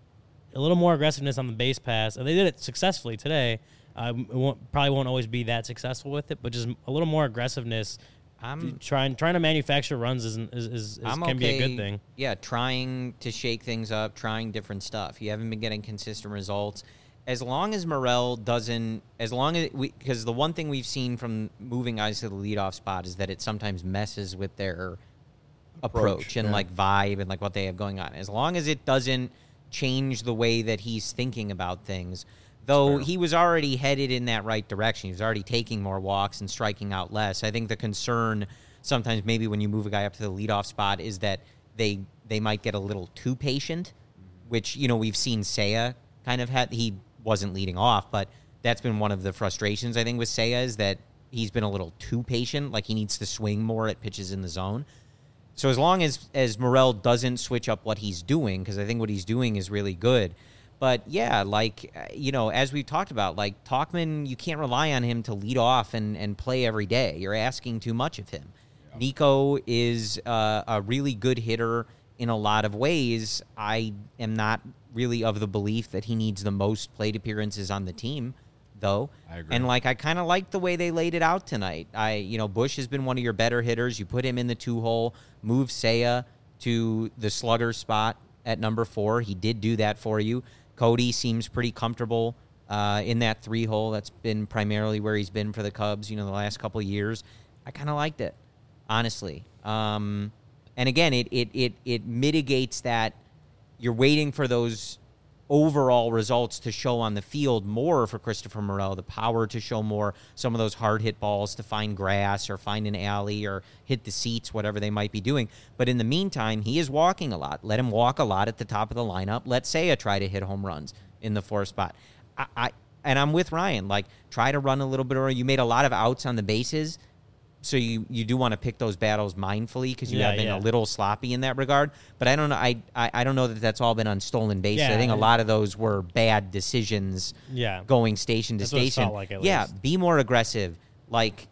A little more aggressiveness on the base pass, and they did it successfully today. Uh, it won't, probably won't always be that successful with it, but just a little more aggressiveness. I'm trying trying to manufacture runs is is, is, is can okay, be a good thing. Yeah, trying to shake things up, trying different stuff. You haven't been getting consistent results. As long as Morel doesn't, as long as we, because the one thing we've seen from moving guys to the leadoff spot is that it sometimes messes with their approach, approach and yeah. like vibe and like what they have going on. As long as it doesn't change the way that he's thinking about things, though he was already headed in that right direction. He was already taking more walks and striking out less. I think the concern sometimes maybe when you move a guy up to the leadoff spot is that they they might get a little too patient, which, you know, we've seen Seiya kind of had. He wasn't leading off, but that's been one of the frustrations, I think, with Seiya is that he's been a little too patient, like he needs to swing more at pitches in the zone. So as long as, as Morel doesn't switch up what he's doing, because I think what he's doing is really good. But, yeah, like, you know, as we've talked about, like, Tauchman, you can't rely on him to lead off and, and play every day. You're asking too much of him. Yeah. Nico is uh, a really good hitter in a lot of ways. I am not really of the belief that he needs the most plate appearances on the team, though. I agree. And, like, I kind of like the way they laid it out tonight. I, you know, Bush has been one of your better hitters. You put him in the two-hole, move Seiya to the slugger spot at number four. He did do that for you. Cody seems pretty comfortable uh, in that three-hole. That's been primarily where he's been for the Cubs, you know, the last couple of years. I kind of liked it, honestly. Um, and, again, it, it it it mitigates that you're waiting for those overall results to show on the field more for Christopher Morel, the power to show more, some of those hard-hit balls to find grass or find an alley or hit the seats, whatever they might be doing. But in the meantime, he is walking a lot. Let him walk a lot at the top of the lineup. Let Seiya try to hit home runs in the fourth spot. I, I And I'm with Ryan. Like, try to run a little bit, or you made a lot of outs on the bases. So you, you do want to pick those battles mindfully because you yeah, have been yeah. a little sloppy in that regard. But I don't know. I, I, I don't know that that's all been on stolen bases. Yeah, I think a yeah. lot of those were bad decisions. Yeah. Going station to That's what it station. felt like, at yeah, least. be more aggressive. Like,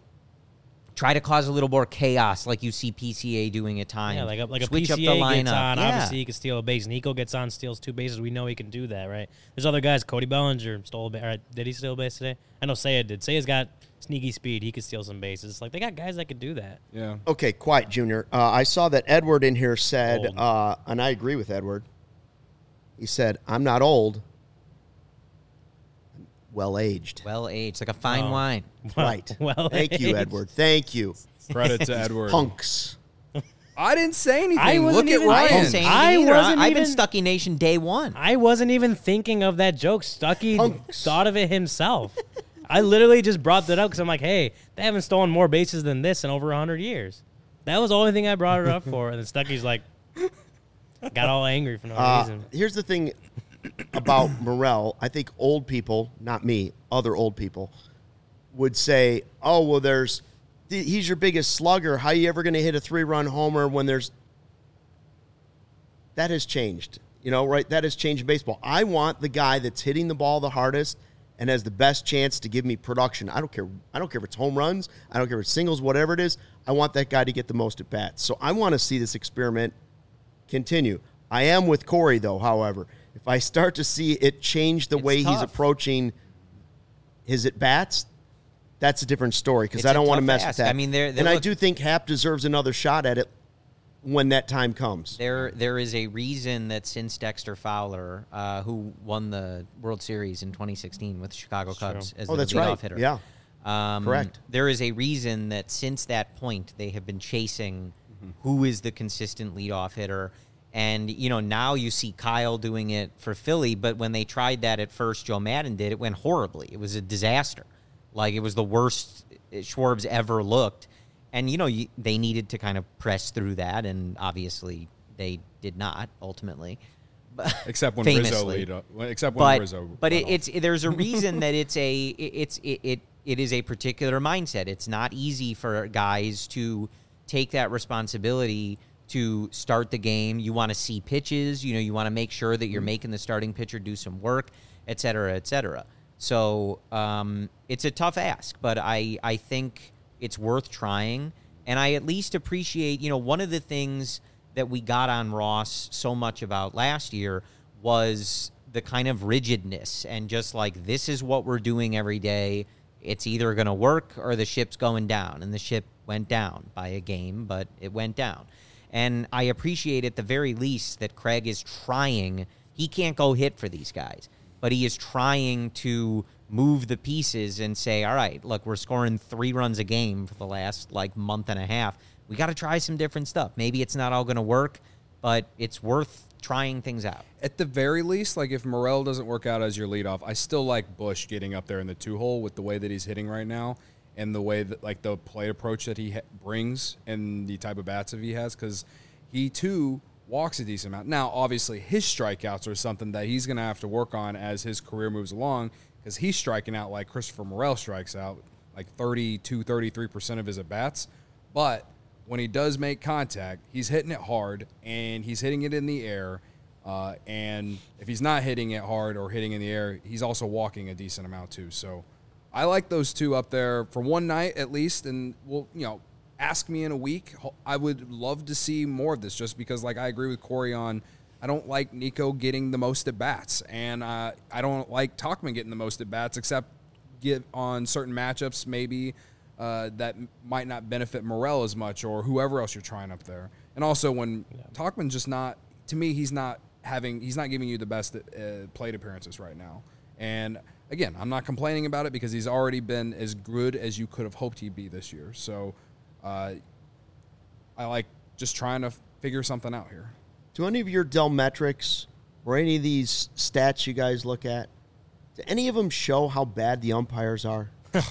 try to cause a little more chaos, like you see P C A doing at times. Yeah, like a, like a Switch P C A up the lineup. gets on. Yeah. Obviously, he can steal a base. Nico gets on, steals two bases. We know he can do that, right? There's other guys. Cody Bellinger stole a base. Right, did he steal a base today? I know Seiya did. Seiya's got sneaky speed. He could steal some bases. Like, they got guys that could do that. Yeah. Okay, quiet, Junior. Uh, I saw that Edward in here said, Old. uh, and I agree with Edward. He said, I'm not old. I'm well-aged. Well aged, like a fine Oh. wine. Right. Well, Thank you, Edward. Thank you. Credit to Edward. Punks. I didn't say anything. I wasn't Look at even- I didn't Ryan. say I anything either. wasn't I, I've been even- Stucky Nation day one. I wasn't even thinking of that joke. Stucky Punks. thought of it himself. I literally just brought that up because I'm like, hey, they haven't stolen more bases than this in over one hundred years. That was the only thing I brought it up for. And then Stucky's like, got all angry for no Uh, reason. here's the thing about Morel. I think old people, not me, other old people, would say, oh, well, there's he's your biggest slugger. How are you ever going to hit a three-run homer when there's – that has changed, you know, right? That has changed baseball. I want the guy that's hitting the ball the hardest and has the best chance to give me production. I don't care. I don't care if it's home runs. I don't care if it's singles, whatever it is. I want that guy to get the most at bats. So I want to see this experiment continue. I am with Corey, though, however. If I start to see it change the It's way he's tough. approaching his at-bats, that's a different story because It's I a don't want to tough mess ask. with that. I mean, they're- they're and I look- do think Happ deserves another shot at it when that time comes. There, there is a reason that since Dexter Fowler, uh, who won the World Series in twenty sixteen with the Chicago Cubs as Oh, the that's leadoff right. hitter, Yeah. Um, Correct. There is a reason that since that point they have been chasing mm-hmm. who is the consistent leadoff hitter. And, you know, now you see Kyle doing it for Philly, but when they tried that at first, Joe Madden did, it went horribly. It was a disaster. Like, it was the worst Schwarb's ever looked. And, you know, you, they needed to kind of press through that, and obviously they did not, ultimately. Except when famously. Rizzo lead up. Except when but, Rizzo But it, off. it's there's a reason that it's a it's it, it it is a particular mindset. It's not easy for guys to take that responsibility to start the game. You want to see pitches. You know, you want to make sure that you're making the starting pitcher do some work, et cetera, et cetera. So um, it's a tough ask, but I I think it's worth trying. And I at least appreciate, you know, one of the things that we got on Ross so much about last year was the kind of rigidness and just like, this is what we're doing every day. It's either going to work or the ship's going down. And the ship went down by a game, but it went down. And I appreciate at the very least that Craig is trying. He can't go hit for these guys, but he is trying to move the pieces and say, all right, look, we're scoring three runs a game for the last like month and a half. We got to try some different stuff. Maybe it's not all going to work, but it's worth trying things out. At the very least, like if Morel doesn't work out as your leadoff, I still like Bush getting up there in the two hole with the way that he's hitting right now and the way that like the play approach that he ha- brings and the type of bats that he has, because he too walks a decent amount. Now, obviously, his strikeouts are something that he's going to have to work on as his career moves along, because he's striking out like Christopher Morel strikes out, like thirty-two, thirty-three percent of his at-bats. But when he does make contact, he's hitting it hard, and he's hitting it in the air. Uh, and if he's not hitting it hard or hitting in the air, he's also walking a decent amount too. So I like those two up there for one night at least. And, well, you know, ask me in a week. I would love to see more of this, just because, like, I agree with Corey on I don't like Nico getting the most at-bats. And uh, I don't like Tauchman getting the most at-bats, except get on certain matchups maybe uh, that might not benefit Morel as much or whoever else you're trying up there. And also when yeah. Tauchman's just not, to me, he's not having, he's not giving you the best uh, plate appearances right now. And again, I'm not complaining about it because he's already been as good as you could have hoped he'd be this year. So uh, I like just trying to figure something out here. Do any of your Dell metrics or any of these stats you guys look at, do any of them show how bad the umpires are?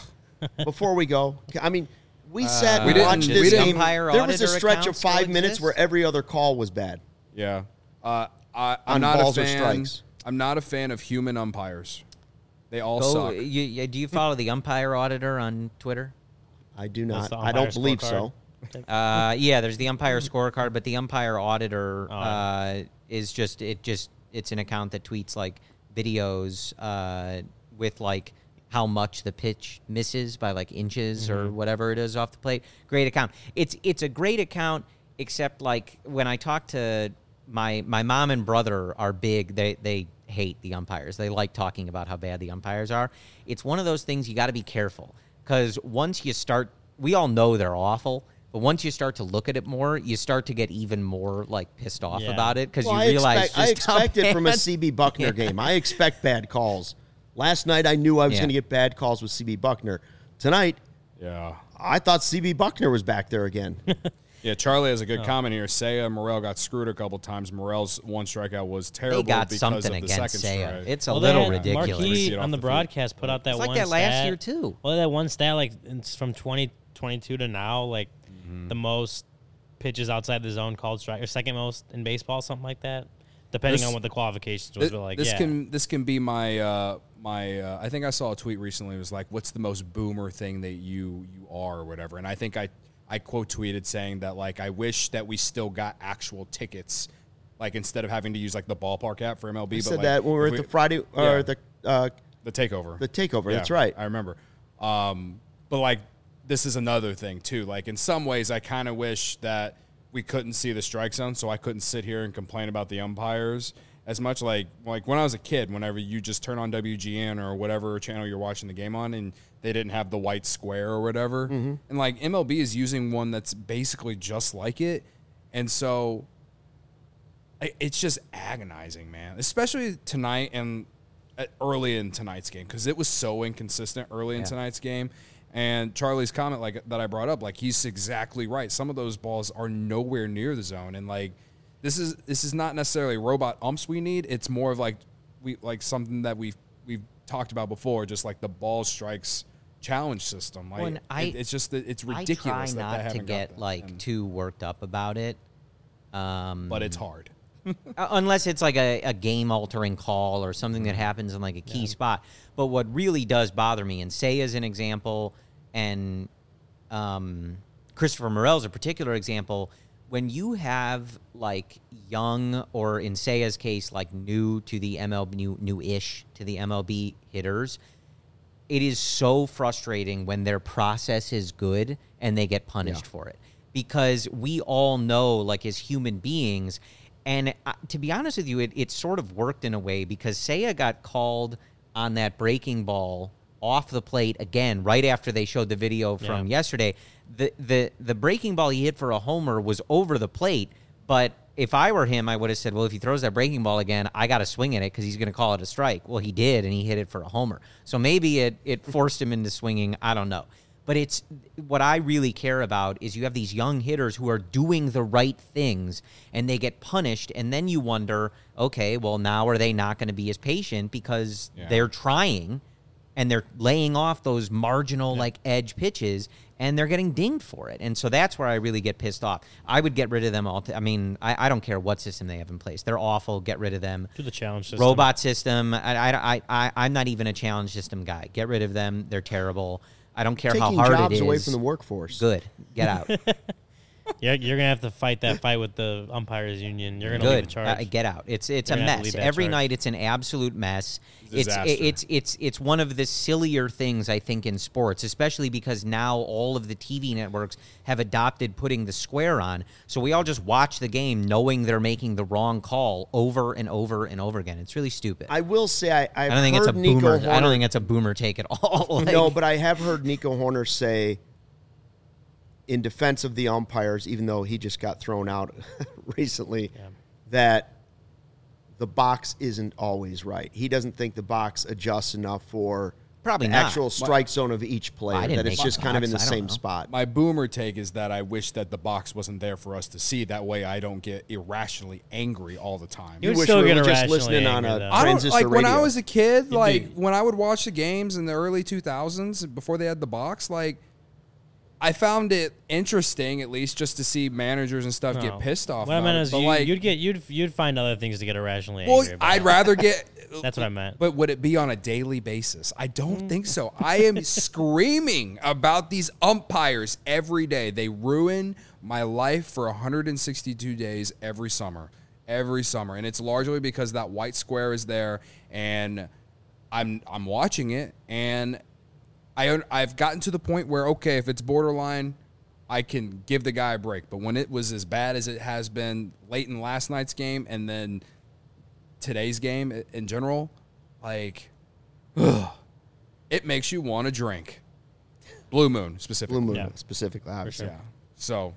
Before we go, I mean, we sat uh, and we watched didn't, this we game. Umpire There was a auditor stretch of accounts still five minutes exist? where every other call was bad. Yeah. Uh, I, I'm On not balls a or fan. strikes. I'm not a fan of human umpires. They all Go, suck. you, you, do you follow the umpire auditor on Twitter? I do That's not. the I don't umpire believe scorecard. so. Uh, yeah, there's the umpire scorecard, but the umpire auditor Oh. uh, is just it. Just it's an account that tweets like videos uh, with like how much the pitch misses by like inches or whatever it is off the plate. Great account. It's it's a great account, except like when I talk to my my mom and brother are big. They they hate the umpires. They like talking about how bad the umpires are. It's one of those things you got to be careful, because once you start, we all know they're awful. But once you start to look at it more, you start to get even more like pissed off Yeah. about it, because Well, you I realize expect, I just how expect it from a bad- C B Buckner Yeah. game. I expect bad calls. Last night I knew I was Yeah. going to get bad calls with C B Buckner. Tonight Yeah. I thought C B Buckner was back there again. Yeah, Charlie has a Oh. good comment here. Seiya Morel got screwed a couple times. Morel's one strikeout was terrible They got because something of the against second Seiya. strike. It's a Well, little they had ridiculous. We see Marquis it on off the the broadcast put out that It's one like that last stat. year too. Well, that one stat, like it's from twenty twenty-two to now, like Mm-hmm. the most pitches outside the zone called strike, or second most in baseball, something like that, depending This- on what the qualifications was. This, But like, this yeah. can this can be my uh, my. Uh, I think I saw a tweet recently. It was like, "What's the most boomer thing that you you are or whatever?" And I think I I quote tweeted saying that like I wish that we still got actual tickets, like instead of having to use like the ballpark app for M L B. I but said like, that when we were if at the Friday or Yeah. the uh, the takeover. the takeover. Yeah, That's right. I remember. Um, but like, this is another thing too. Like in some ways, I kind of wish that we couldn't see the strike zone, so I couldn't sit here and complain about the umpires as much. Like like when I was a kid, whenever you just turn on W G N or whatever channel you're watching the game on, and they didn't have the white square or whatever, Mm-hmm. and like M L B is using one that's basically just like it, and so I- it's just agonizing, man. Especially tonight and uh, early in tonight's game, because it was so inconsistent early in Yeah. tonight's game. And Charlie's comment, like that I brought up, like he's exactly right. Some of those balls are nowhere near the zone, and like this is this is not necessarily robot umps we need. It's more of like we like something that we've we've talked about before, just like the ball strikes challenge system. Like When I- it, it's just that it's ridiculous I try that not they to haven't get got that. like And- too worked up about it. Um, but it's hard. Uh, unless it's like a, a game-altering call or something that happens in like a key spot. But what really does bother me, and say as an example, and um, Christopher Morel's a particular example, when you have like young, or in Seiya's case, like new to the M L B, new, new-ish to the M L B hitters, it is so frustrating when their process is good and they get punished Yeah. for it. Because we all know, like as human beings, and uh, to be honest with you, it, it sort of worked in a way, because Seiya got called on that breaking ball off the plate again right after they showed the video from Yeah. yesterday. The, the the breaking ball he hit for a homer was over the plate, but if I were him, I would have said, well, if he throws that breaking ball again, I got to swing at it because he's going to call it a strike. Well, he did, and he hit it for a homer. So maybe it, it forced him into swinging. I don't know. But it's what I really care about is you have these young hitters who are doing the right things and they get punished, and then you wonder, okay, well, now are they not going to be as patient because Yeah. they're trying and they're laying off those marginal like edge pitches and they're getting dinged for it. And so that's where I really get pissed off. I would get rid of them all. T- I mean, I, I don't care what system they have in place. They're awful. Get rid of them. Do the challenge system. Robot system. I, I, I, I'm not even a challenge system guy. Get rid of them. They're terrible. I don't care Taking how hard jobs it is. away from the workforce. Good. Get out. You're, you're gonna have to fight that fight with the umpires union. You're gonna lead Good. the charge. Uh, get out. It's it's You're a gonna have to mess. lead that Every charge. night it's an absolute mess. It's Disaster. it's it's it's one of the sillier things I think in sports, especially because now all of the T V networks have adopted putting the square on. So we all just watch the game knowing they're making the wrong call over and over and over again. It's really stupid. I, I will say I I've don't think heard it's a Nico boomer. Horner, I don't think it's a boomer take at all. Like, no, but I have heard Nico Horner say, in defense of the umpires, even though he just got thrown out recently, Yeah. that the box isn't always right. He doesn't think the box adjusts enough for Probably the not. actual strike zone of each player. I didn't That it's make just the kind of box. in the I don't same know. spot. My boomer take is that I wish that the box wasn't there for us to see. That way I don't get irrationally angry all the time. You would wish still we get were just irrationally listening on angry, a though. I don't transistor like when I radio. was a kid, You'd like be- when I would watch the games in the early two thousands before they had the box, like I found it interesting at least just to see managers and stuff No. get pissed off. What I about meant it. is But, you, like, you'd get you'd you'd find other things to get irrationally well, angry about. I'd rather get. That's what I meant. But would it be on a daily basis? I don't Mm. think so. I am screaming about these umpires every day. They ruin my life for one hundred sixty-two days every summer. Every summer. And it's largely because that white square is there and I'm I'm watching it and I I've gotten to the point where okay, if it's borderline, I can give the guy a break. But when it was as bad as it has been late in last night's game and then today's game in general, like, ugh, it makes you want to drink. Blue Moon specifically. Blue Moon Yeah. specifically, obviously. Yeah. So,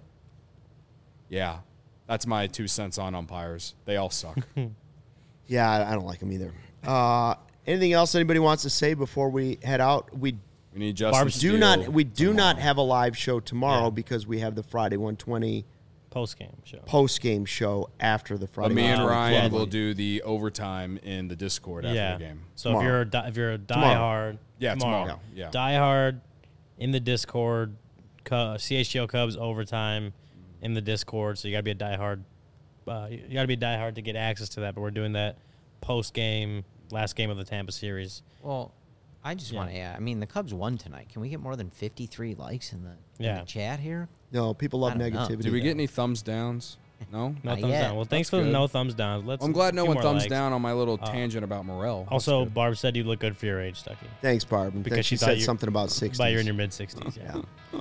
yeah, that's my two cents on umpires. They all suck. Yeah, I, I don't like them either. Uh, anything else anybody wants to say before we head out? We We need Justin Barb's do Steele not. We do not tomorrow. have a live show tomorrow Yeah. because we have the Friday one twenty Post game show. post game show after the Friday. But me and Wow. Ryan Yeah. will do the overtime in the Discord after yeah. the game. So Tomorrow. if you're a di- if you're a Tomorrow. diehard, Yeah, tomorrow. Yeah. diehard in the Discord, Cu- C H G O Cubs overtime in the Discord. So you gotta be a diehard. Uh, you gotta be a diehard to get access to that. But we're doing that post game, last game of the Tampa series. well, I just Yeah. want to add. I mean, the Cubs won tonight. Can we get more than fifty-three likes in the, in Yeah. the chat here? No, people love I don't know. negativity. Did we get any thumbs downs? No? No Not thumbs yet. down. Well, thanks That's for the good. no thumbs down. Let's. I'm glad no few one more thumbs likes. down on my little Uh, tangent about Morel. That's Also, good. Barb said you look good for your age, Stucky. Thanks, Barb. And Because thanks- she she thought said you- something about sixties. But you're in your mid sixties. Yeah.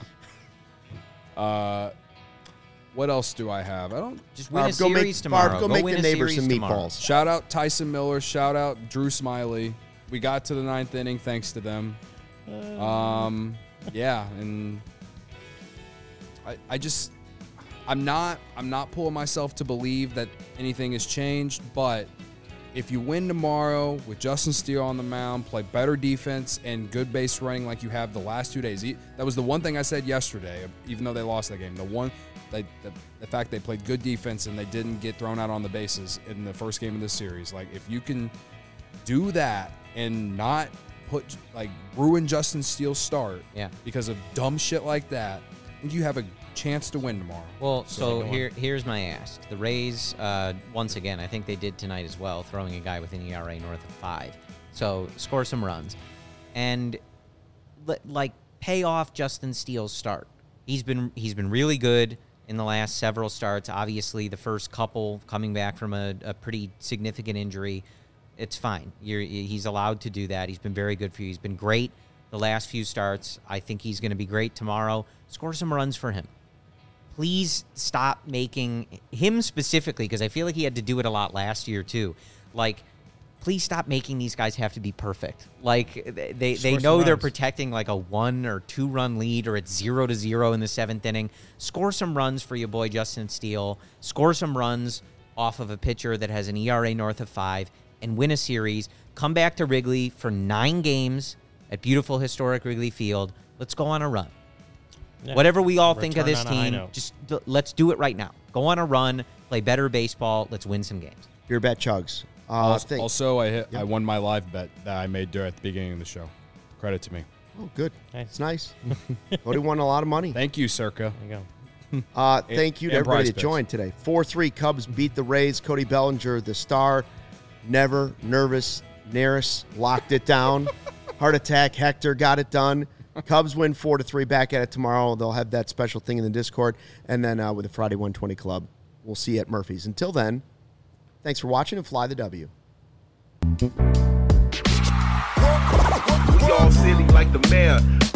Yeah. Uh, what else do I have? I don't. Just win Barb, a go make- series tomorrow. Barb, go make win the a neighbors series some tomorrow. meatballs. Shout out Tyson Miller. Shout out Drew Smiley. We got to the ninth inning thanks to them. Um, yeah, and I, I just, I'm not, I'm not pulling myself to believe that anything has changed, but if you win tomorrow with Justin Steele on the mound, play better defense and good base running like you have the last two days. That was the one thing I said yesterday, even though they lost that game. The one, they, the, the fact they played good defense and they didn't get thrown out on the bases in the first game of this series. Like, if you can do that and not put, like, ruin Justin Steele's start Yeah. because of dumb shit like that, I think you have a chance to win tomorrow. Well, so, go on. here here's my ask. The Rays, uh, once again, I think they did tonight as well, throwing a guy with an E R A north of five. So score some runs. And, li- like, pay off Justin Steele's start. He's been he's been really good in the last several starts. Obviously, the first couple coming back from a, a pretty significant injury, it's fine. You're, he's allowed to do that. He's been very good for you. He's been great the last few starts. I think he's going to be great tomorrow. Score some runs for him. Please stop making him specifically, because I feel like he had to do it a lot last year too. Like, please stop making these guys have to be perfect. Like, they they, they know they're protecting like a one or two run lead, or it's zero to zero in the seventh inning. Score some runs for your boy Justin Steele. Score some runs off of a pitcher that has an E R A north of five, and win a series. Come back to Wrigley for nine games at beautiful historic Wrigley Field. Let's go on a run. Yeah. Whatever we all think of this team, just d- let's do it right now. Go on a run, play better baseball. Let's win some games. Your bet, Chugs. Uh, also, think- also, I hit, Yep. I won my live bet that I made during at the beginning of the show. Credit to me. Oh, good. Nice. It's nice. Cody won a lot of money. Thank you, Circa. There you go. Uh, thank you to and everybody prize that picks. joined today. four three Cubs beat the Rays. Cody Bellinger, the star. Never nervous. Neris locked it down. Heart attack. Hector got it done. Cubs win four to three. Back at it tomorrow. They'll have that special thing in the Discord. And then uh, with the Friday one twenty Club, we'll see you at Murphy's. Until then, thanks for watching and fly the W. We all silly like the mayor.